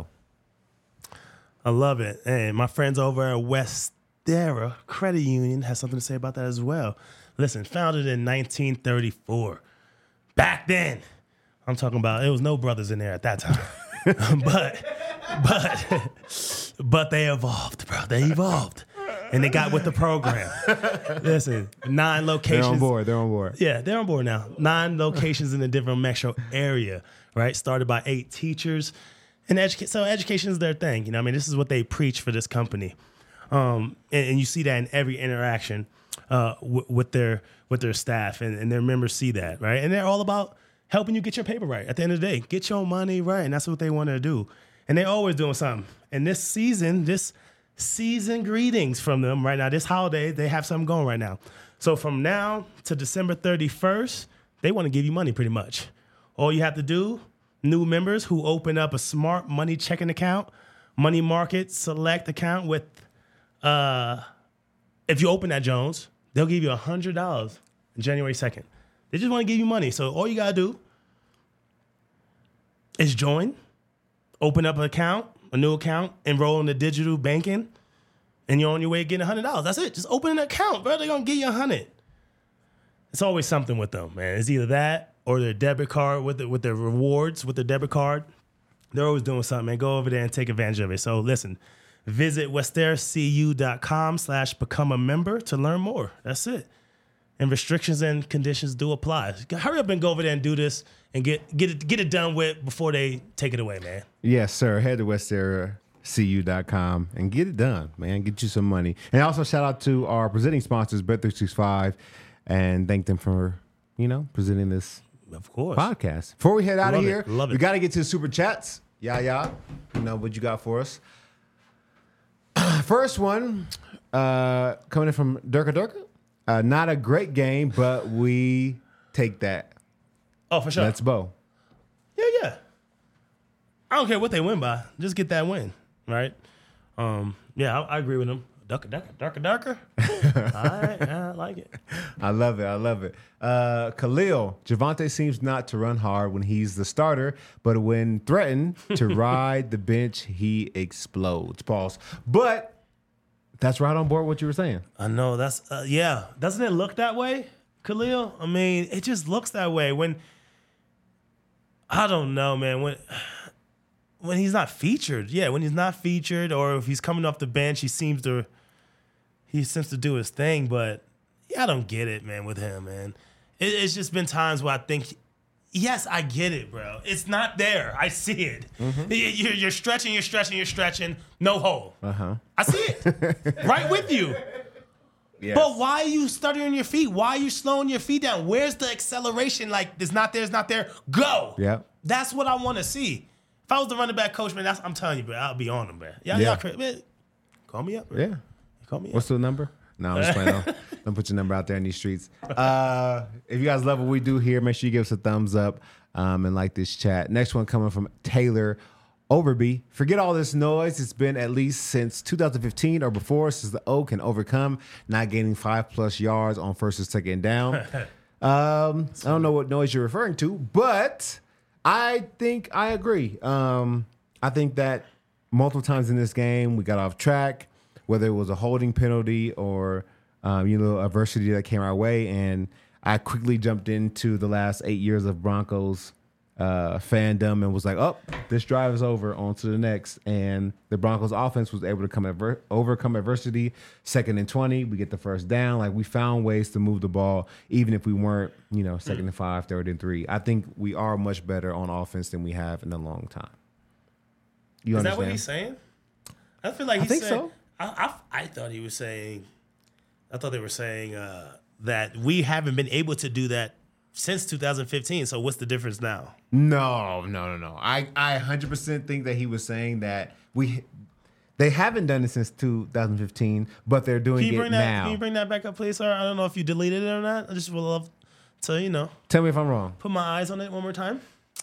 I love it. And my friends over at Westera Credit Union has something to say about that as well. Listen, founded in nineteen thirty-four. Back then, I'm talking about it was no brothers in there at that time. but but but they evolved, bro. They evolved. And they got with the program. Listen, nine They're locations. on board. They're on board. Yeah, they're on board now. Nine locations in a different metro area, right? Started by eight teachers. And educa- so education is their thing. You know, what I mean, this is what they preach for this company. Um, and, and you see that in every interaction uh, w- with their with their staff, and, and their members see that, right? And they're all about helping you get your paper right. At the end of the day, get your money right, and that's what they want to do. And they're always doing something. And this season, this season greetings from them right now. This holiday, they have something going right now. So from now to December thirty-first, they want to give you money pretty much. All you have to do, new members who open up a smart money checking account, money market select account with, uh, if you open that Jones, they'll give you one hundred dollars on January second. They just want to give you money. So all you got to do is join, open up an account, a new account, enroll in the digital banking, and you're on your way to getting one hundred dollars. That's it. Just open an account, bro. They're going to give you one hundred dollars. It's always something with them, man. It's either that or their debit card with the, with their rewards with their debit card. They're always doing something, man. Go over there and take advantage of it. So listen, visit westercu.com slash become a member to learn more. That's it. And restrictions and conditions do apply. Hurry up and go over there and do this and get get it get it done with before they take it away, man. Yes, sir. Head to Westera C U dot com and get it done, man. Get you some money. And also shout out to our presenting sponsors, Bet three sixty-five, and thank them for, you know, presenting this Of course. podcast. Before we head out of Love it. here, Love it. we got to get to the super chats. Yeah, yeah. You know what you got for us. First one uh, coming in from Durka Durka. Uh, not a great game, but we take that. Oh, for sure. Let's Bo. Yeah, yeah. I don't care what they win by. Just get that win, right? Um, yeah, I, I agree with them. Darker, darker, darker, darker. All right, yeah, I like it. I love it. I love it. Uh, Khalil, Javonte seems not to run hard when he's the starter, but when threatened to ride the bench, he explodes. Pause. But that's right on board what you were saying. I know that's uh, yeah. Doesn't it look that way, Khalil? I mean, it just looks that way when. I don't know, man. When when he's not featured, yeah, when he's not featured, or if he's coming off the bench, he seems to he seems to do his thing. But yeah, I don't get it, man. With him, man, it, it's just been times where I think, yes, I get it, bro. It's not there. I see it. Mm-hmm. You're, you're stretching, you're stretching, you're stretching. No hole. Uh huh. I see it. Right with you. Yes. But why are you stuttering your feet? Why are you slowing your feet down? Where's the acceleration? Like, it's not there, it's not there. Go. Yep. That's what I want to see. If I was the running back coach, man, that's, I'm telling you, bro, I'll be on him, man. Y'all, Yeah. y'all cra- man, call me up, man. Yeah. Call me What's up. the number? No, I'm just playing. Don't, don't put your number out there in these streets. Uh, if you guys love what we do here, make sure you give us a thumbs up um, and like this chat. Next one coming from Taylor Overby. Forget all this noise. It's been at least since two thousand fifteen or before since the O can overcome not gaining five plus yards on first and second down. um, I don't know what noise you're referring to, but I think I agree. Um, I think that multiple times in this game we got off track, whether it was a holding penalty or um, you know adversity that came our way, and I quickly jumped into the last eight years of Broncos uh, fandom and was like, "Oh, this drive is over. On to the next." And the Broncos offense was able to come adver- overcome adversity. Second and twenty, we get the first down. Like we found ways to move the ball, even if we weren't, you know, second and five, third and three. I think we are much better on offense than we have in a long time. You Is understand? that what he's saying? I feel like I he's think saying, so. I, I, I thought he was saying, I thought they were saying uh, that we haven't been able to do that since two thousand fifteen. So what's the difference now? No, no, no, no. I, I one hundred percent think that he was saying that we they haven't done it since two thousand fifteen, but they're doing Can you it bring that? now. Can you bring that back up, please, sir? I don't know if you deleted it or not. I just would love to, you know, Tell me if I'm wrong. put my eyes on it one more time.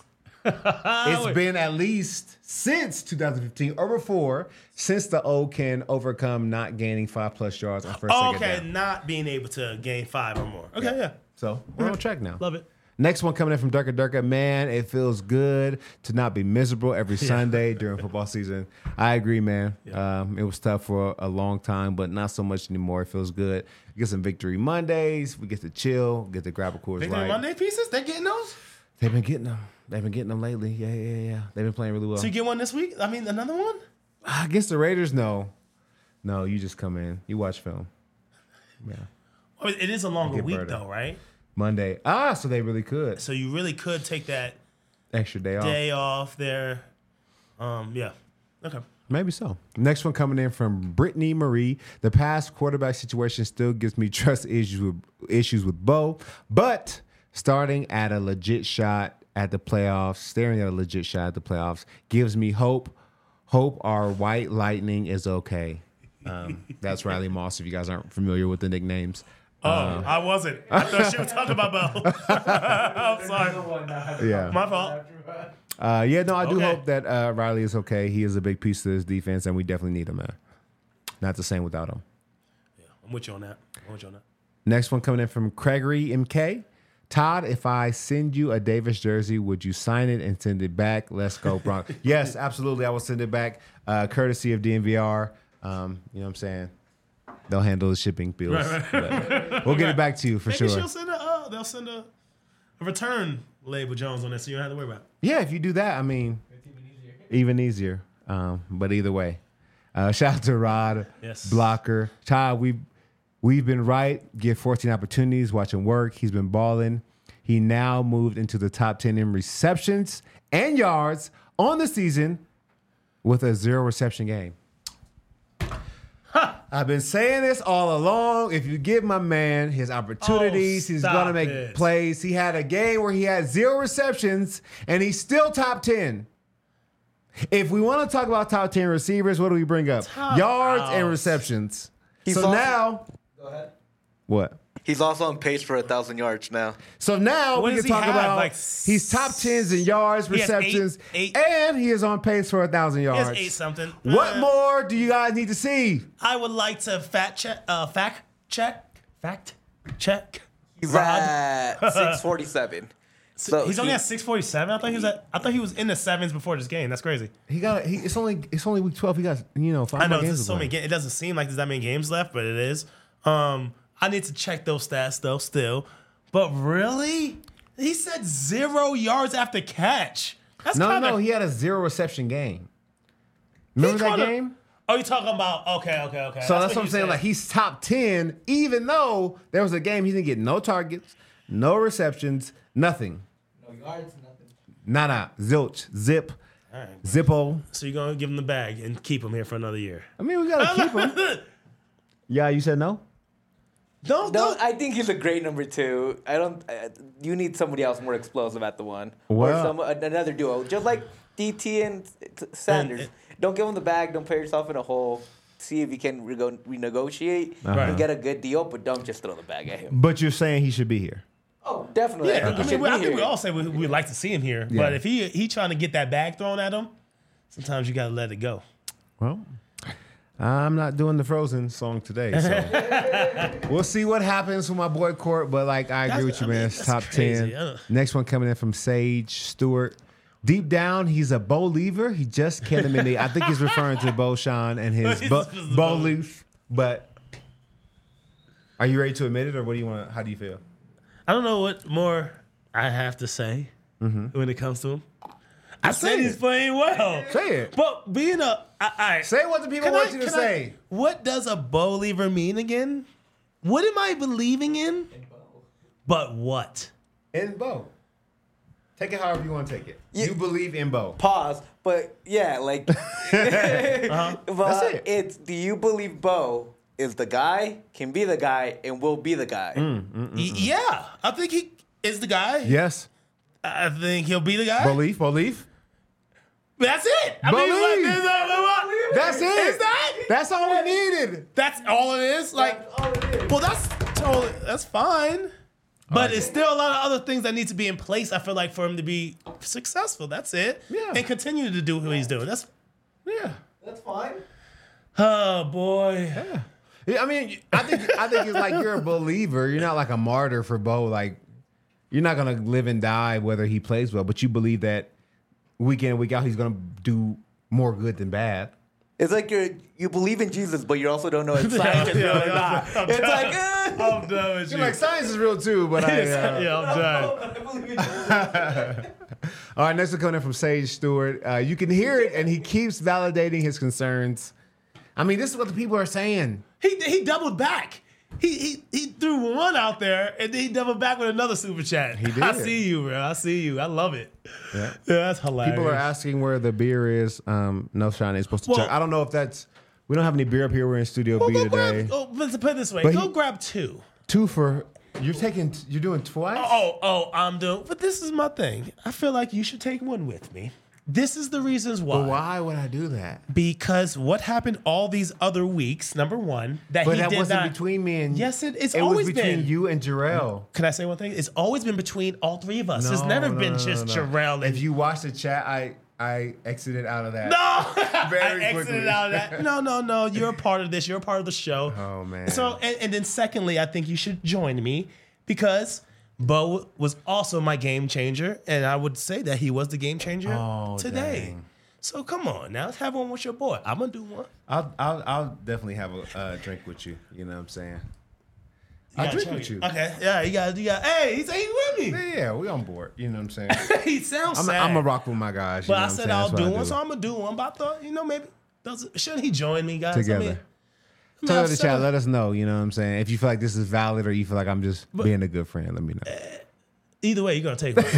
It's been at least since two thousand fifteen or before since the O can overcome not gaining five plus yards on first Oh, second okay, down. not being able to gain five or more. Okay, yeah, So we're on track now. love it. Next one coming in from Durka Durka. Man, it feels good to not be miserable every Sunday during football season. I agree, man. Um, it was tough for a long time, but not so much anymore. It feels good. We get some Victory Mondays. We get to chill, get to grab a Coors Victory Light. Monday pieces, they're getting those. They've been getting them. They've been getting them lately. Yeah, yeah, yeah. They've been playing really well. So you get one this week? I mean, another one? Against the Raiders, no. No, you just come in. You watch film. Yeah. Oh, it is a longer Get week Berta. though, right? Monday. Ah, so they really could. So you really could take that Extra day off. day off there. Um, yeah. Okay. Maybe so. Next one coming in from Brittany Marie. The past quarterback situation still gives me trust issues with issues with Bo, but starting at a legit shot at the playoffs, staring at a legit shot at the playoffs gives me hope. Hope our white lightning is okay. Um, that's Riley Moss. If you guys aren't familiar with the nicknames. Oh, I wasn't. I thought she was talking about Bo. I'm sorry. Yeah. My fault. Uh, yeah, no, I do Okay. hope that uh, Riley is okay. He is a big piece of this defense, and we definitely need him, man. Not the same without him. Yeah, I'm with you on that. I'm with you on that. Next one coming in from Gregory M K. Todd, if I send you a Davis jersey, would you sign it and send it back? Let's go, Broncos. Yes, absolutely. I will send it back, uh, courtesy of D N V R. Um, you know what I'm saying? They'll handle the shipping bills. But we'll get it back to you for Maybe sure. she'll send a. Uh, they'll send a, a return label Jones on it, so you don't have to worry about it. Yeah, if you do that, I mean, even easier. Um, but either way, uh, shout out to Rod, Yes. Blocker. Todd, we've, we've been right. Get fourteen opportunities, watch him work. He's been balling. He now moved into the top ten in receptions and yards on the season with a zero reception game. I've been saying this all along. If you give my man his opportunities, Oh, he's stop going to make it. plays. He had a game where he had zero receptions, and he's still top ten. If we want to talk about top ten receivers, what do we bring up? Top Yards out. and receptions. He's so also- now, Go ahead. what? He's also on pace for a thousand yards now. So now What we does can he talk have? about Like he's top tens in yards, He has eight- receptions, eight- and he is on pace for a thousand He yards. has eight something. What Uh, more do you guys need to see? I would like to fact check. Uh, fact check. Fact check. He's Rod. at six forty-seven. So He's only he- at six forty-seven. I thought he was at. I thought he was in the sevens before this game. That's crazy. He got. He, it's only. It's only week twelve. He got. You know, five I know more games. there's to so play. many games. It doesn't seem like there's that many games left, but it is. Um, I need to check those stats though. Still, but really, He said zero yards after catch. That's No, kinda, no, he had a zero reception game. Remember that kinda- game? Oh, you talking about? Okay, okay, okay. So that's, what I'm you saying. said. Like he's top ten, even though there was a game he didn't get no targets, no receptions, nothing. No yards, nothing. Nada, zilch, zip, All right. zippo. So you're gonna give him the bag and keep him here for another year? I mean, we gotta keep him. Yeah, you said no. Don't, No, don't. I think he's a great number two. I don't. Uh, you need somebody else more explosive at the one, Well- or some another duo, just like D T and t- Sanders. And- don't give him the bag. Don't put yourself in a hole. See if you can re- renegotiate Uh-huh. and get a good deal, but don't just throw the bag at him. But you're saying he should be here. Oh, definitely. Yeah, I think I he mean, should we, I be think we here. all say we, we'd like to see him here, Yeah. but if he he trying to get that bag thrown at him, sometimes you gotta let it go. Well, I'm not doing the Frozen song today, so we'll see what happens with my boy Court. But like, I agree That's- with you, I mean, man. It's that's top crazy. ten. Uh. Next one coming in from Sage Stewart. Deep down, he's a bow lever. He just can't admit it. I think he's referring to Bo Sean and his He's bo- just a bow bow. leaf. But are you ready to admit it, or what do you want? How do you feel? I don't know what more I have to say when it comes to him. I Just said say he's it. playing well. Say it. But being a, I, I, Say what the people Can want I- you to can I- say. what does a bow lever mean again? What am I believing in? And Bo. But what? In Bo. Take it however you want to take it. Yeah. You believe in Bo. Pause. But yeah, like, Uh-huh. but That's it. it's do you believe Bo is the guy, can be the guy, and will be the guy? Y- Yeah, I think he is the guy. Yes. I think he'll be the guy. Belief, belief. That's it. I Believe. mean, like, there's a- That's it. Is that? That's all we needed. That's all it is. Like, That's all it is. well, that's totally that's fine. But it's still a lot of other things that need to be in place. I feel like for him to be successful. That's it. Yeah. And continue to do what he's doing. That's Yeah. That's fine. oh boy. Yeah, I mean, I think I think it's like you're a believer. You're not like a martyr for Bo. Like, you're not gonna live and die whether he plays well, but you believe that week in and week out he's gonna do more good than bad. It's like you're you believe in Jesus, but you also don't know if science is real or not. I'm It's done. like eh. I'm done with you. You're like, science is real too, but I. Uh, yeah, I'm done. I believe in Jesus. All right, next one coming in from Sage Stewart. Uh, you can hear it, and he keeps validating his concerns. I mean, this is what the people are saying. He he doubled back. He he he threw one out there and then he doubled back with another super chat. He did. I see you, bro. I see you. I love it. Yeah. Yeah, that's hilarious. People are asking where the beer is. Um, no, Sean ain't supposed to Well- check. I don't know if that's. We don't have any beer up here. We're in Studio Well, B go today. grab. Oh, let's put it this way. But go he- grab two. Two for you're taking. You're doing twice. Oh, oh, I'm doing. But this is my thing. I feel like you should take one with me. This is the reasons why. But why would I do that? Because what happened all these other weeks? Number one, that But he that did wasn't not. between me and. Yes, it- it's it always was between been. you and Jarrell. Can I say one thing? It's always been between all three of us. it's No, never no, been no, just no, no. Jarrell. And If you watch the chat, I I exited out of that. No, Very I exited quickly. out of that. No, no, no. You're a part of this. You're a part of the show. Oh man. So, and, and then secondly, I think you should join me because Bo was also my game changer, and I would say that he was the game changer Oh, today. dang. So come on, now let's have one with your boy. I'm gonna do one. I'll I'll I'll definitely have a uh, drink with you. You know what I'm saying? You I'll gotta drink show with you. Okay, yeah, you got, you got. Hey, he's, he's with me. Yeah, yeah, we on board. You know what I'm saying? he sounds I'm sad. I'm a rock with my guys. You But know I what I'm said saying? I'll That's what do I one, so I'm gonna do one. But I thought, you know, maybe does shouldn't he join me, guys? Together. I mean, I Tell mean, the I've chat. said- Let us know. You know what I'm saying? If you feel like this is valid or you feel like I'm just being a good friend, let me know. Either way, you're gonna take one.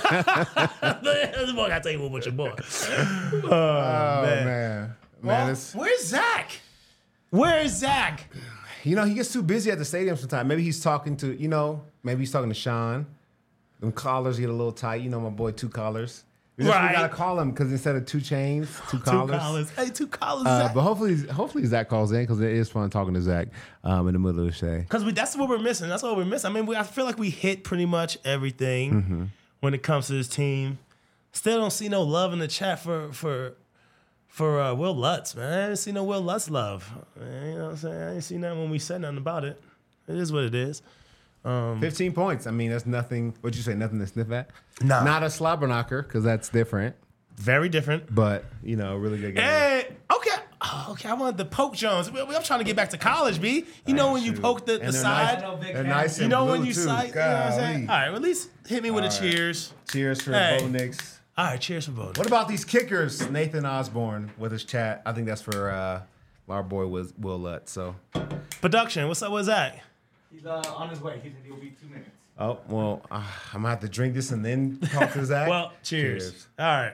This boy gotta take one with your boy. Oh man. man, man, Well, it's, where's Zach? Where's Zach? you know he gets too busy at the stadium sometimes. Maybe he's talking to you know. Maybe he's talking to Sean. Them collars get a little tight. You know my boy, two collars. We just we Right. gotta call him because instead of two chains, two collars. Two collars. Hey, two collars. Uh, Zach. but hopefully, hopefully Zach calls in because it is fun talking to Zach um, in the middle of the day. Because we that's what we're missing. That's what we're missing. I mean, we, I feel like we hit pretty much everything Mm-hmm. when it comes to this team. Still don't see no love in the chat for for for uh, Will Lutz, man. I didn't see no Will Lutz love. Man, you know what I'm saying? I didn't see nothing when we said nothing about it. It is what it is. Fifteen points. I mean, that's nothing. What'd you say? Nothing to sniff at. Nah. Not a slobber knocker because that's different. Very different. But you know, really good game. Hey, okay. Oh, okay, I wanted to poke Jones. We- we- I'm trying to get back to college, B. You know when you shoot. poke the, And the they're side? I know big They're fans. nice You and know blue when you too. side? You know what I'm saying? Golly. All right, well, at least hit me with a All right. cheers. Cheers for Hey. Bo Nix. All right, cheers for both. What about these kickers? Nathan Osborne with his chat. I think that's for uh, our boy Will, Will Lutz. So, Production, what's up with Zach? He's uh, on his way. He said he'll be two minutes. oh well, uh, I'm gonna have to drink this and then talk to Zach. Well, cheers. All right.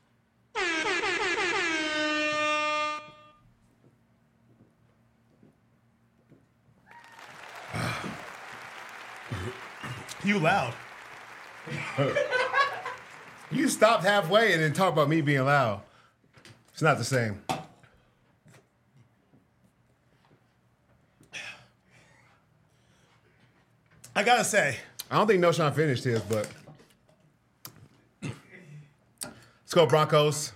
You loud. You stopped halfway and then talk about me being loud. It's not the same. I gotta say, I don't think No Sean finished his, but let's go Broncos.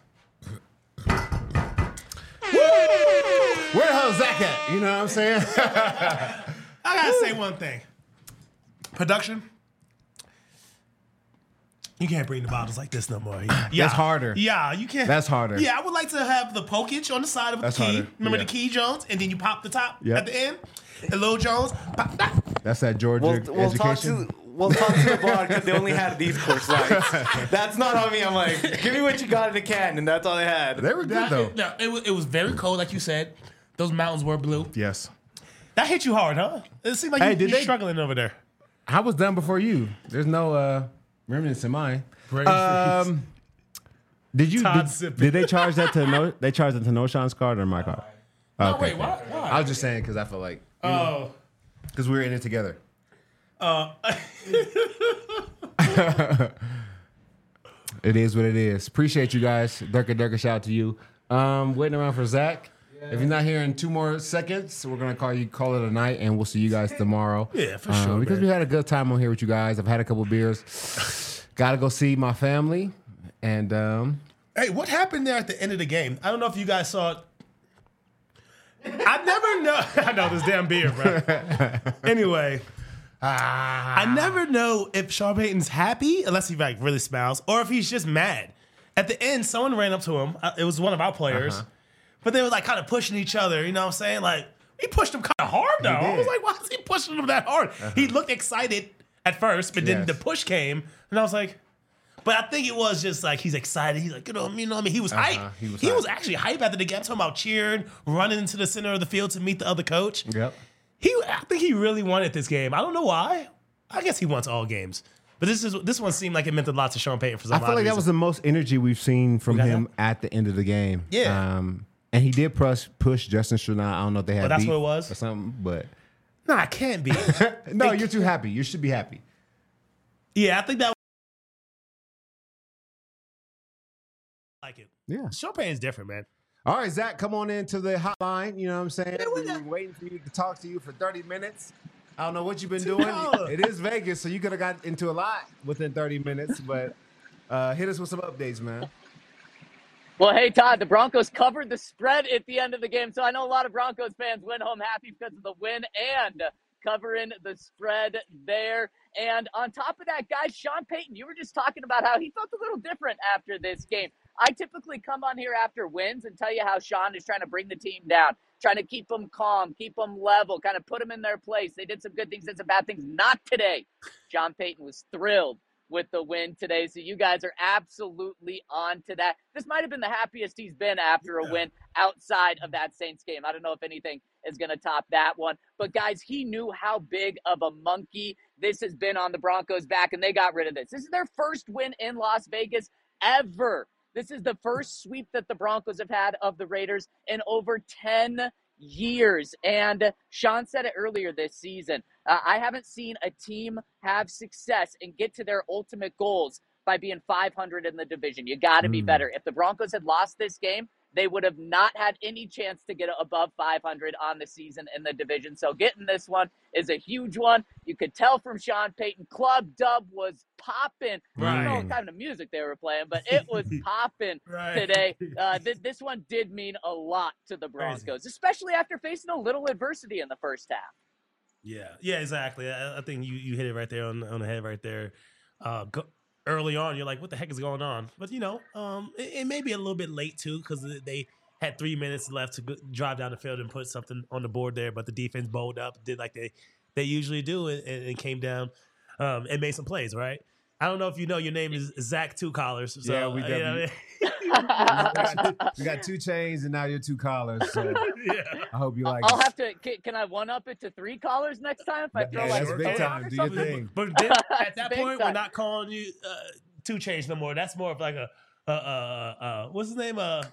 Where the hell is Zach at? You know what I'm saying? I gotta say one thing. Production, you can't bring the bottles like this no more. Yeah, That's harder. Yeah, you can't. That's harder. Yeah, I would like to have the pokage on the side of That's the key. harder. Remember Yeah. the key, Jones? And then you pop the top Yep. at the end. And Lil Jones, pop that. That's that Georgia We'll, we'll talk education. to we'll talk to the bar because they only had these course lights. That's not on me. I'm like, give me what you got in the can, and that's all they had. They were good That- though. no, it was, it was very cold, like you said. Those mountains were blue. Yes. That hit you hard, huh? It seemed like Hey, you, did you're they- struggling over there. I was done before you. There's no uh, remnants in mine. Brain Um, did you Todd did, sipping. did they charge that to no? They charged it to No Sean's card or my card? No, Okay, wait, okay. why? Why? I was just saying because I feel like Oh. because we were in it together. Uh, It is what it is. Appreciate you guys. Durka Durka, shout out to you. Um, waiting around for Zach. If you're not here in two more seconds, we're gonna call you call it a night, and we'll see you guys tomorrow. Yeah, for Um, sure, Because man. we had a good time on here with you guys. I've had a couple beers. Got to go see my family, and um, hey, what happened there at the end of the game? I don't know if you guys saw it. I never know. I know this damn beer, bro. Anyway, I never know if Sean Payton's happy unless he like really smiles, or if he's just mad. At the end, someone ran up to him. Uh, It was one of our players, Uh-huh. but they were like kind of pushing each other. You know what I'm saying? Like he pushed him kind of hard though. I was did. like, why is he pushing him that hard? He looked excited at first, but then Yes. the push came, and I was like. But I think it was just like he's excited. He's like, you know, you know what I mean? He was Uh-huh. hype. He was he hype. was actually hype after the game. I'm talking about cheering, running into the center of the field to meet the other coach. yep. He, I think he really wanted this game. I don't know why. I guess he wants all games. But this is this one seemed like it meant a lot to Sean Payton for some I feel odd like that reason. was the most energy we've seen from got him at the end of the game. Yeah. Um, and he did push push Justin Stranad. I don't know if they had Oh, that's beef what it was? or something, but Nah, it can't be. no, you're too happy. You should be happy. Yeah, I think that like it. Yeah. Sean Payton's different, man. All right, Zach, come on into the hotline. You know what I'm saying? Yeah, we We've got- been waiting for you to talk to you for thirty minutes. I don't know what you've been doing. No. It is Vegas, so you could have got into a lot within thirty minutes, but uh, hit us with some updates, man. Well, hey, Todd, the Broncos covered the spread at the end of the game, so I know a lot of Broncos fans went home happy because of the win and covering the spread there. And on top of that, guys, Sean Payton, you were just talking about how he felt a little different after this game. I typically come on here after wins and tell you how Sean is trying to bring the team down, trying to keep them calm, keep them level, kind of put them in their place. They did some good things, did some bad things. Not today. Sean Payton was thrilled with the win today, so you guys are absolutely on to that. This might have been the happiest he's been after a win outside of that Saints game. I don't know if anything is going to top that one. But, guys, he knew how big of a monkey this has been on the Broncos' back, and they got rid of this. This is their first win in Las Vegas ever. This is the first sweep that the Broncos have had of the Raiders in over ten years. And Sean said it earlier this season. Uh, I haven't seen a team have success and get to their ultimate goals by being five hundred in the division. You got to be Mm. better. If the Broncos had lost this game, they would have not had any chance to get above five hundred on the season in the division. So getting this one is a huge one. You could tell from Sean Payton, Club Dub was popping. I don't know Right. what kind of music they were playing, but it was popping Right. today. Uh, th- this one did mean a lot to the Broncos, especially after facing a little adversity in the first half. Yeah, yeah, exactly. I, I think you, you hit it right there on, on the head right there. Uh, go, early on, you're like, what the heck is going on? But, you know, um, it, it may be a little bit late, too, because they had three minutes left to go, drive down the field and put something on the board there, but the defense bowled up, did like they they usually do, and, and came down um, and made some plays. Right. I don't know if you know your name is Zach Two Collars. So, Yeah, we uh, you know definitely- what I we, got, we got two chains and now you're two collars. So mean? yeah. I hope you like I'll it. have to. Can, can I one up it to three collars next time if I throw Yeah, like that's a big phone time. or Do your something? thing. But then at that Big point, we're time. not calling you uh, Two Chains no more. That's more of like a uh, uh, uh, what's his name? Uh,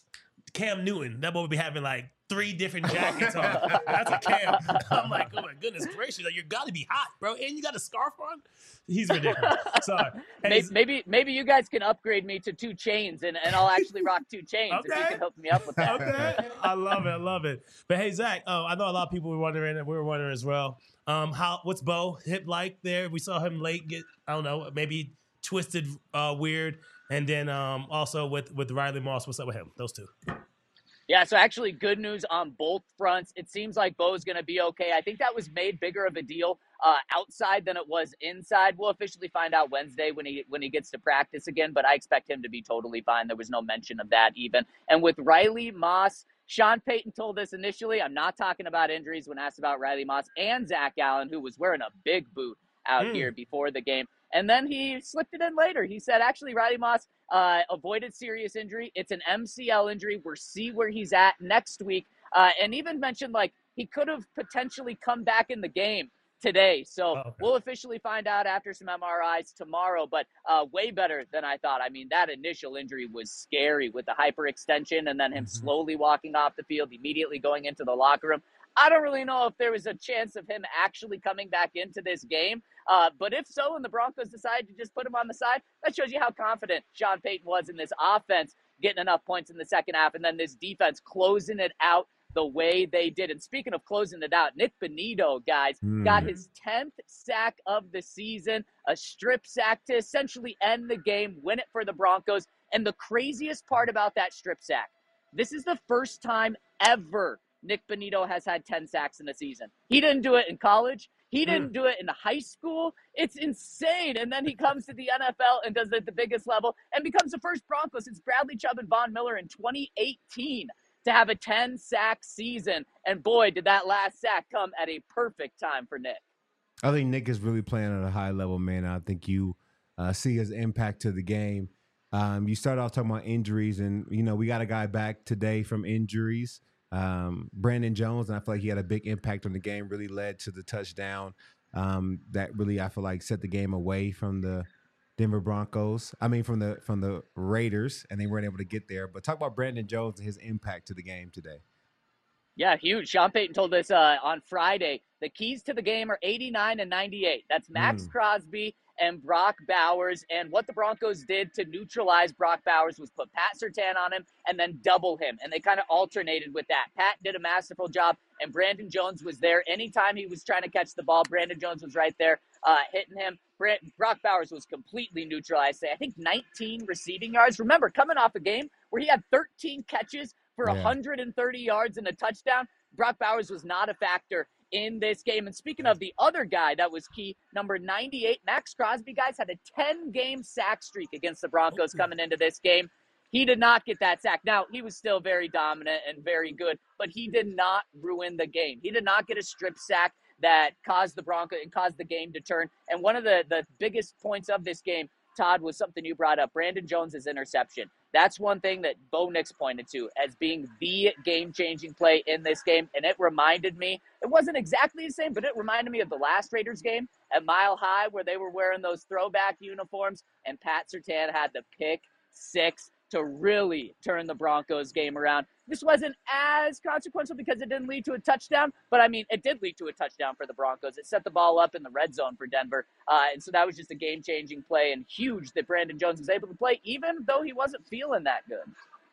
Cam Newton. That boy would be having like three different jackets on. That's a Cam. I'm like, oh my goodness gracious, like, you got to be hot, bro, and you got a scarf on. He's ridiculous. Sorry. Hey, Maybe, maybe maybe you guys can upgrade me to two chains and, and I'll actually rock two chains if you Okay. can hook me up with that. Okay, I love it. I love it. But hey, Zach, oh, I know a lot of people were wondering, and we were wondering as well. Um, how what's Bo hip like there? We saw him late get, I don't know, maybe twisted, uh, weird, and then um, also with with Riley Moss. What's up with him? Those two. Yeah, so actually good news on both fronts. It seems like Bo's going to be okay. I think that was made bigger of a deal uh, outside than it was inside. We'll officially find out Wednesday when he when he gets to practice again, but I expect him to be totally fine. There was no mention of that even. And with Riley Moss, Sean Payton told us initially, I'm not talking about injuries when asked about Riley Moss and Zach Allen, who was wearing a big boot out Mm. here before the game. And then he slipped it in later. He said, actually, Riley Moss uh, avoided serious injury. It's an M C L injury. We'll see where he's at next week. Uh, and even mentioned, like, he could have potentially come back in the game today. So Oh, okay. we'll officially find out after some M R Is tomorrow, but uh, way better than I thought. I mean, that initial injury was scary with the hyperextension and then him Mhm. slowly walking off the field, immediately going into the locker room. I don't really know if there was a chance of him actually coming back into this game. Uh, but if so, and the Broncos decide to just put him on the side, that shows you how confident Sean Payton was in this offense, getting enough points in the second half, and then this defense closing it out the way they did. And speaking of closing it out, Nick Bonito, guys, Mm. got his tenth sack of the season, a strip sack to essentially end the game, win it for the Broncos. And the craziest part about that strip sack, this is the first time ever Nick Bonito has had ten sacks in a season. He didn't do it in college. He didn't do it in high school. It's insane. And then he comes to the N F L and does it at the biggest level and becomes the first Bronco since Bradley Chubb and Von Miller in twenty eighteen to have a ten-sack season. And boy, did that last sack come at a perfect time for Nick. I think Nick is really playing at a high level, man. I think you uh, see his impact to the game. Um, you started off talking about injuries, and you know we got a guy back today from injuries, um, Brandon Jones, and I feel like he had a big impact on the game. Really led to the touchdown um, that really I feel like set the game away from the Denver Broncos. I mean, from the from the Raiders, and they weren't able to get there. But talk about Brandon Jones and his impact to the game today. Yeah, huge. Sean Payton told us uh, on Friday, the keys to the game are eighty-nine and ninety-eight. That's Max Mm. Crosby and Brock Bowers. And what the Broncos did to neutralize Brock Bowers was put Pat Surtain on him and then double him. And they kind of alternated with that. Pat did a masterful job, and Brandon Jones was there. Anytime he was trying to catch the ball, Brandon Jones was right there uh, hitting him. Brand- Brock Bowers was completely neutralized. I think nineteen receiving yards. Remember, coming off a game where he had thirteen catches for Yeah. one hundred thirty yards and a touchdown, Brock Bowers was not a factor in this game. And speaking of the other guy that was key, number ninety-eight, Max Crosby, guys, had a ten-game sack streak against the Broncos coming into this game. He did not get that sack. Now, he was still very dominant and very good, but he did not ruin the game. He did not get a strip sack that caused the Broncos and caused the game to turn. And one of the, the biggest points of this game, Todd, was something you brought up, Brandon Jones' interception. That's one thing that Bo Nix pointed to as being the game-changing play in this game, and it reminded me, it wasn't exactly the same, but it reminded me of the last Raiders game at Mile High where they were wearing those throwback uniforms, and Pat Surtain had the pick six to really turn the Broncos game around. This wasn't as consequential because it didn't lead to a touchdown, but I mean, it did lead to a touchdown for the Broncos. It set the ball up in the red zone for Denver, uh, and so that was just a game-changing play, and huge that Brandon Jones was able to play, even though he wasn't feeling that good.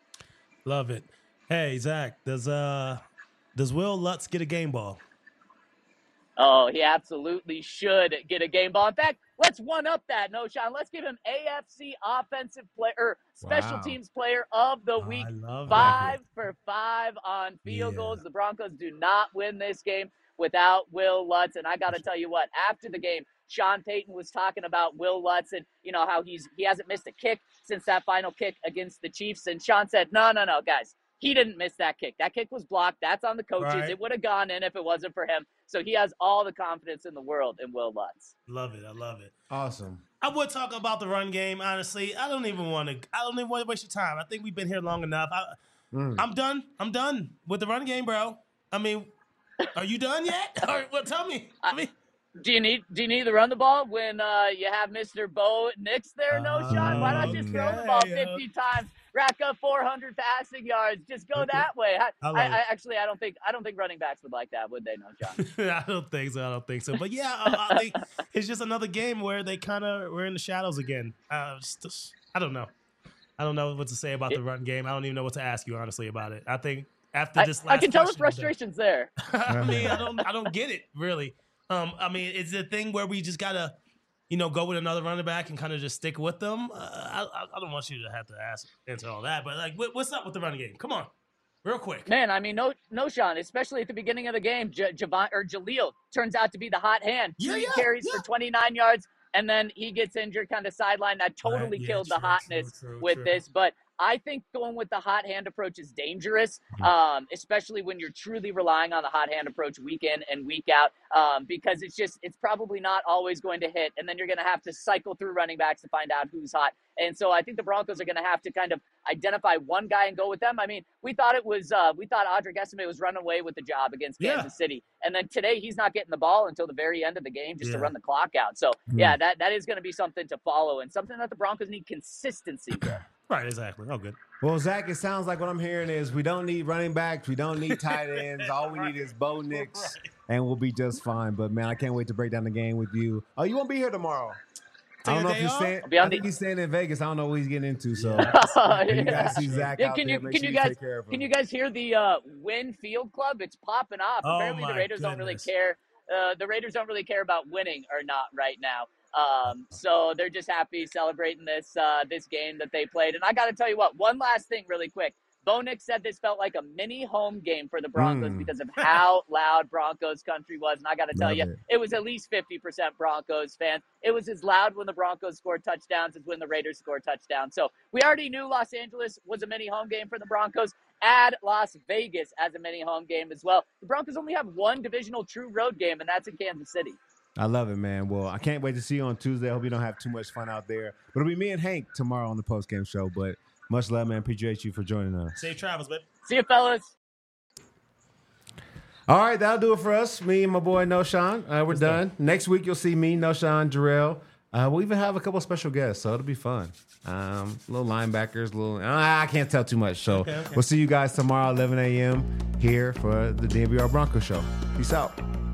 Love it. Hey, Zach, does uh does Will Lutz get a game ball? Oh, he absolutely should get a game ball. In fact, let's one up that. No, Sean, let's give him A F C Offensive Player, or Special Wow. Teams Player of the Oh, Week. I love Five for five on field Yeah. goals. The Broncos do not win this game without Will Lutz. And I got to tell you what, after the game, Sean Payton was talking about Will Lutz and, you know, how he's he hasn't missed a kick since that final kick against the Chiefs. And Sean said, no, no, no, guys, He didn't miss that kick. That kick was blocked. That's on the coaches. Right. It would have gone in if it wasn't for him. So he has all the confidence in the world in Will Lutz. Love it. I love it. Awesome. I would talk about the run game, honestly. I don't even want to. I don't even want to waste your time. I think we've been here long enough. I, Mm. I'm done. I'm done with the run game, bro. I mean, are you done yet? Or, well, tell me. I mean, Do you need do you need to run the ball when uh, you have Mister Bo Nix there? No shot. Why not just throw the ball Okay. fifty times, rack up four hundred passing yards, just go that way? I, I love I, it. I actually I don't think I don't think running backs would like that, would they? No, John. I don't think so. I don't think so. But yeah, I, I think it's just another game where they kind of we're in the shadows again. Uh, just- just- I don't know. I don't know what to say about the run game. I don't even know what to ask you honestly about it. I think after I, this last I can tell the question, I'm done. frustration's there. I mean, I don't, I don't get it really. Um, I mean, it's a thing where we just gotta, you know, go with another running back and kind of just stick with them. Uh, I, I, I don't want you to have to ask answer all that, but like, what, what's up with the running game? Come on, real quick. Man, I mean, no, no, Sean. Especially at the beginning of the game, J- Javon or Jaleel turns out to be the hot hand. Two Yeah, yeah, carries yeah. for twenty-nine yards, and then he gets injured, kind of sideline. That totally Right, yeah, killed the true, hotness true, true, with true. this. But I think going with the hot hand approach is dangerous, Mm-hmm. um, especially when you're truly relying on the hot hand approach week in and week out, um, because it's just it's probably not always going to hit, and then you're going to have to cycle through running backs to find out who's hot. And so I think the Broncos are going to have to kind of identify one guy and go with them. I mean, we thought it was uh, we thought Audric Esime was running away with the job against Yeah. Kansas City, and then today he's not getting the ball until the very end of the game just Yeah. to run the clock out. So yeah, that that is going to be something to follow and something that the Broncos need consistency with. Right, exactly. Oh, good. Well, Zach, it sounds like what I'm hearing is we don't need running backs, we don't need tight ends. All we need is Bo Nix, and we'll be just fine. But man, I can't wait to break down the game with you. Oh, you won't be here tomorrow? I don't know if day you're off? staying. I'll be on I think the- he's staying in Vegas. I don't know what he's getting into. So Yeah. when you guys see Zach Yeah, out can there, you make can sure you you guys take care of him. can you guys hear the uh, Win Field Club? It's popping off. Oh, Apparently the my Raiders don't really goodness. care. Uh, the Raiders don't really care about winning or not right now. Um, so they're just happy celebrating this uh, this game that they played. And I got to tell you what, one last thing really quick. Bo Nix said this felt like a mini home game for the Broncos Mm. because of how loud Broncos country was. And I got to tell Love you, it. it was at least fifty percent Broncos fans. It was as loud when the Broncos scored touchdowns as when the Raiders scored touchdowns. So we already knew Los Angeles was a mini home game for the Broncos. Add Las Vegas as a mini home game as well. The Broncos only have one divisional true road game, and that's in Kansas City. I love it, man. Well, I can't wait to see you on Tuesday. I hope you don't have too much fun out there. But it'll be me and Hank tomorrow on the postgame show. But much love, man. Appreciate you for joining us. Safe travels, babe. See you, fellas. All right, that'll do it for us. Me and my boy Noshawn. Uh, we're done. Next week you'll see me, Noshawn, Jarrell. Uh, we'll even have a couple of special guests, so it'll be fun. Um, little linebackers, little. Uh, I can't tell too much. So Okay, okay. we'll see you guys tomorrow, eleven a.m. here for the D N V R Broncos show. Peace out.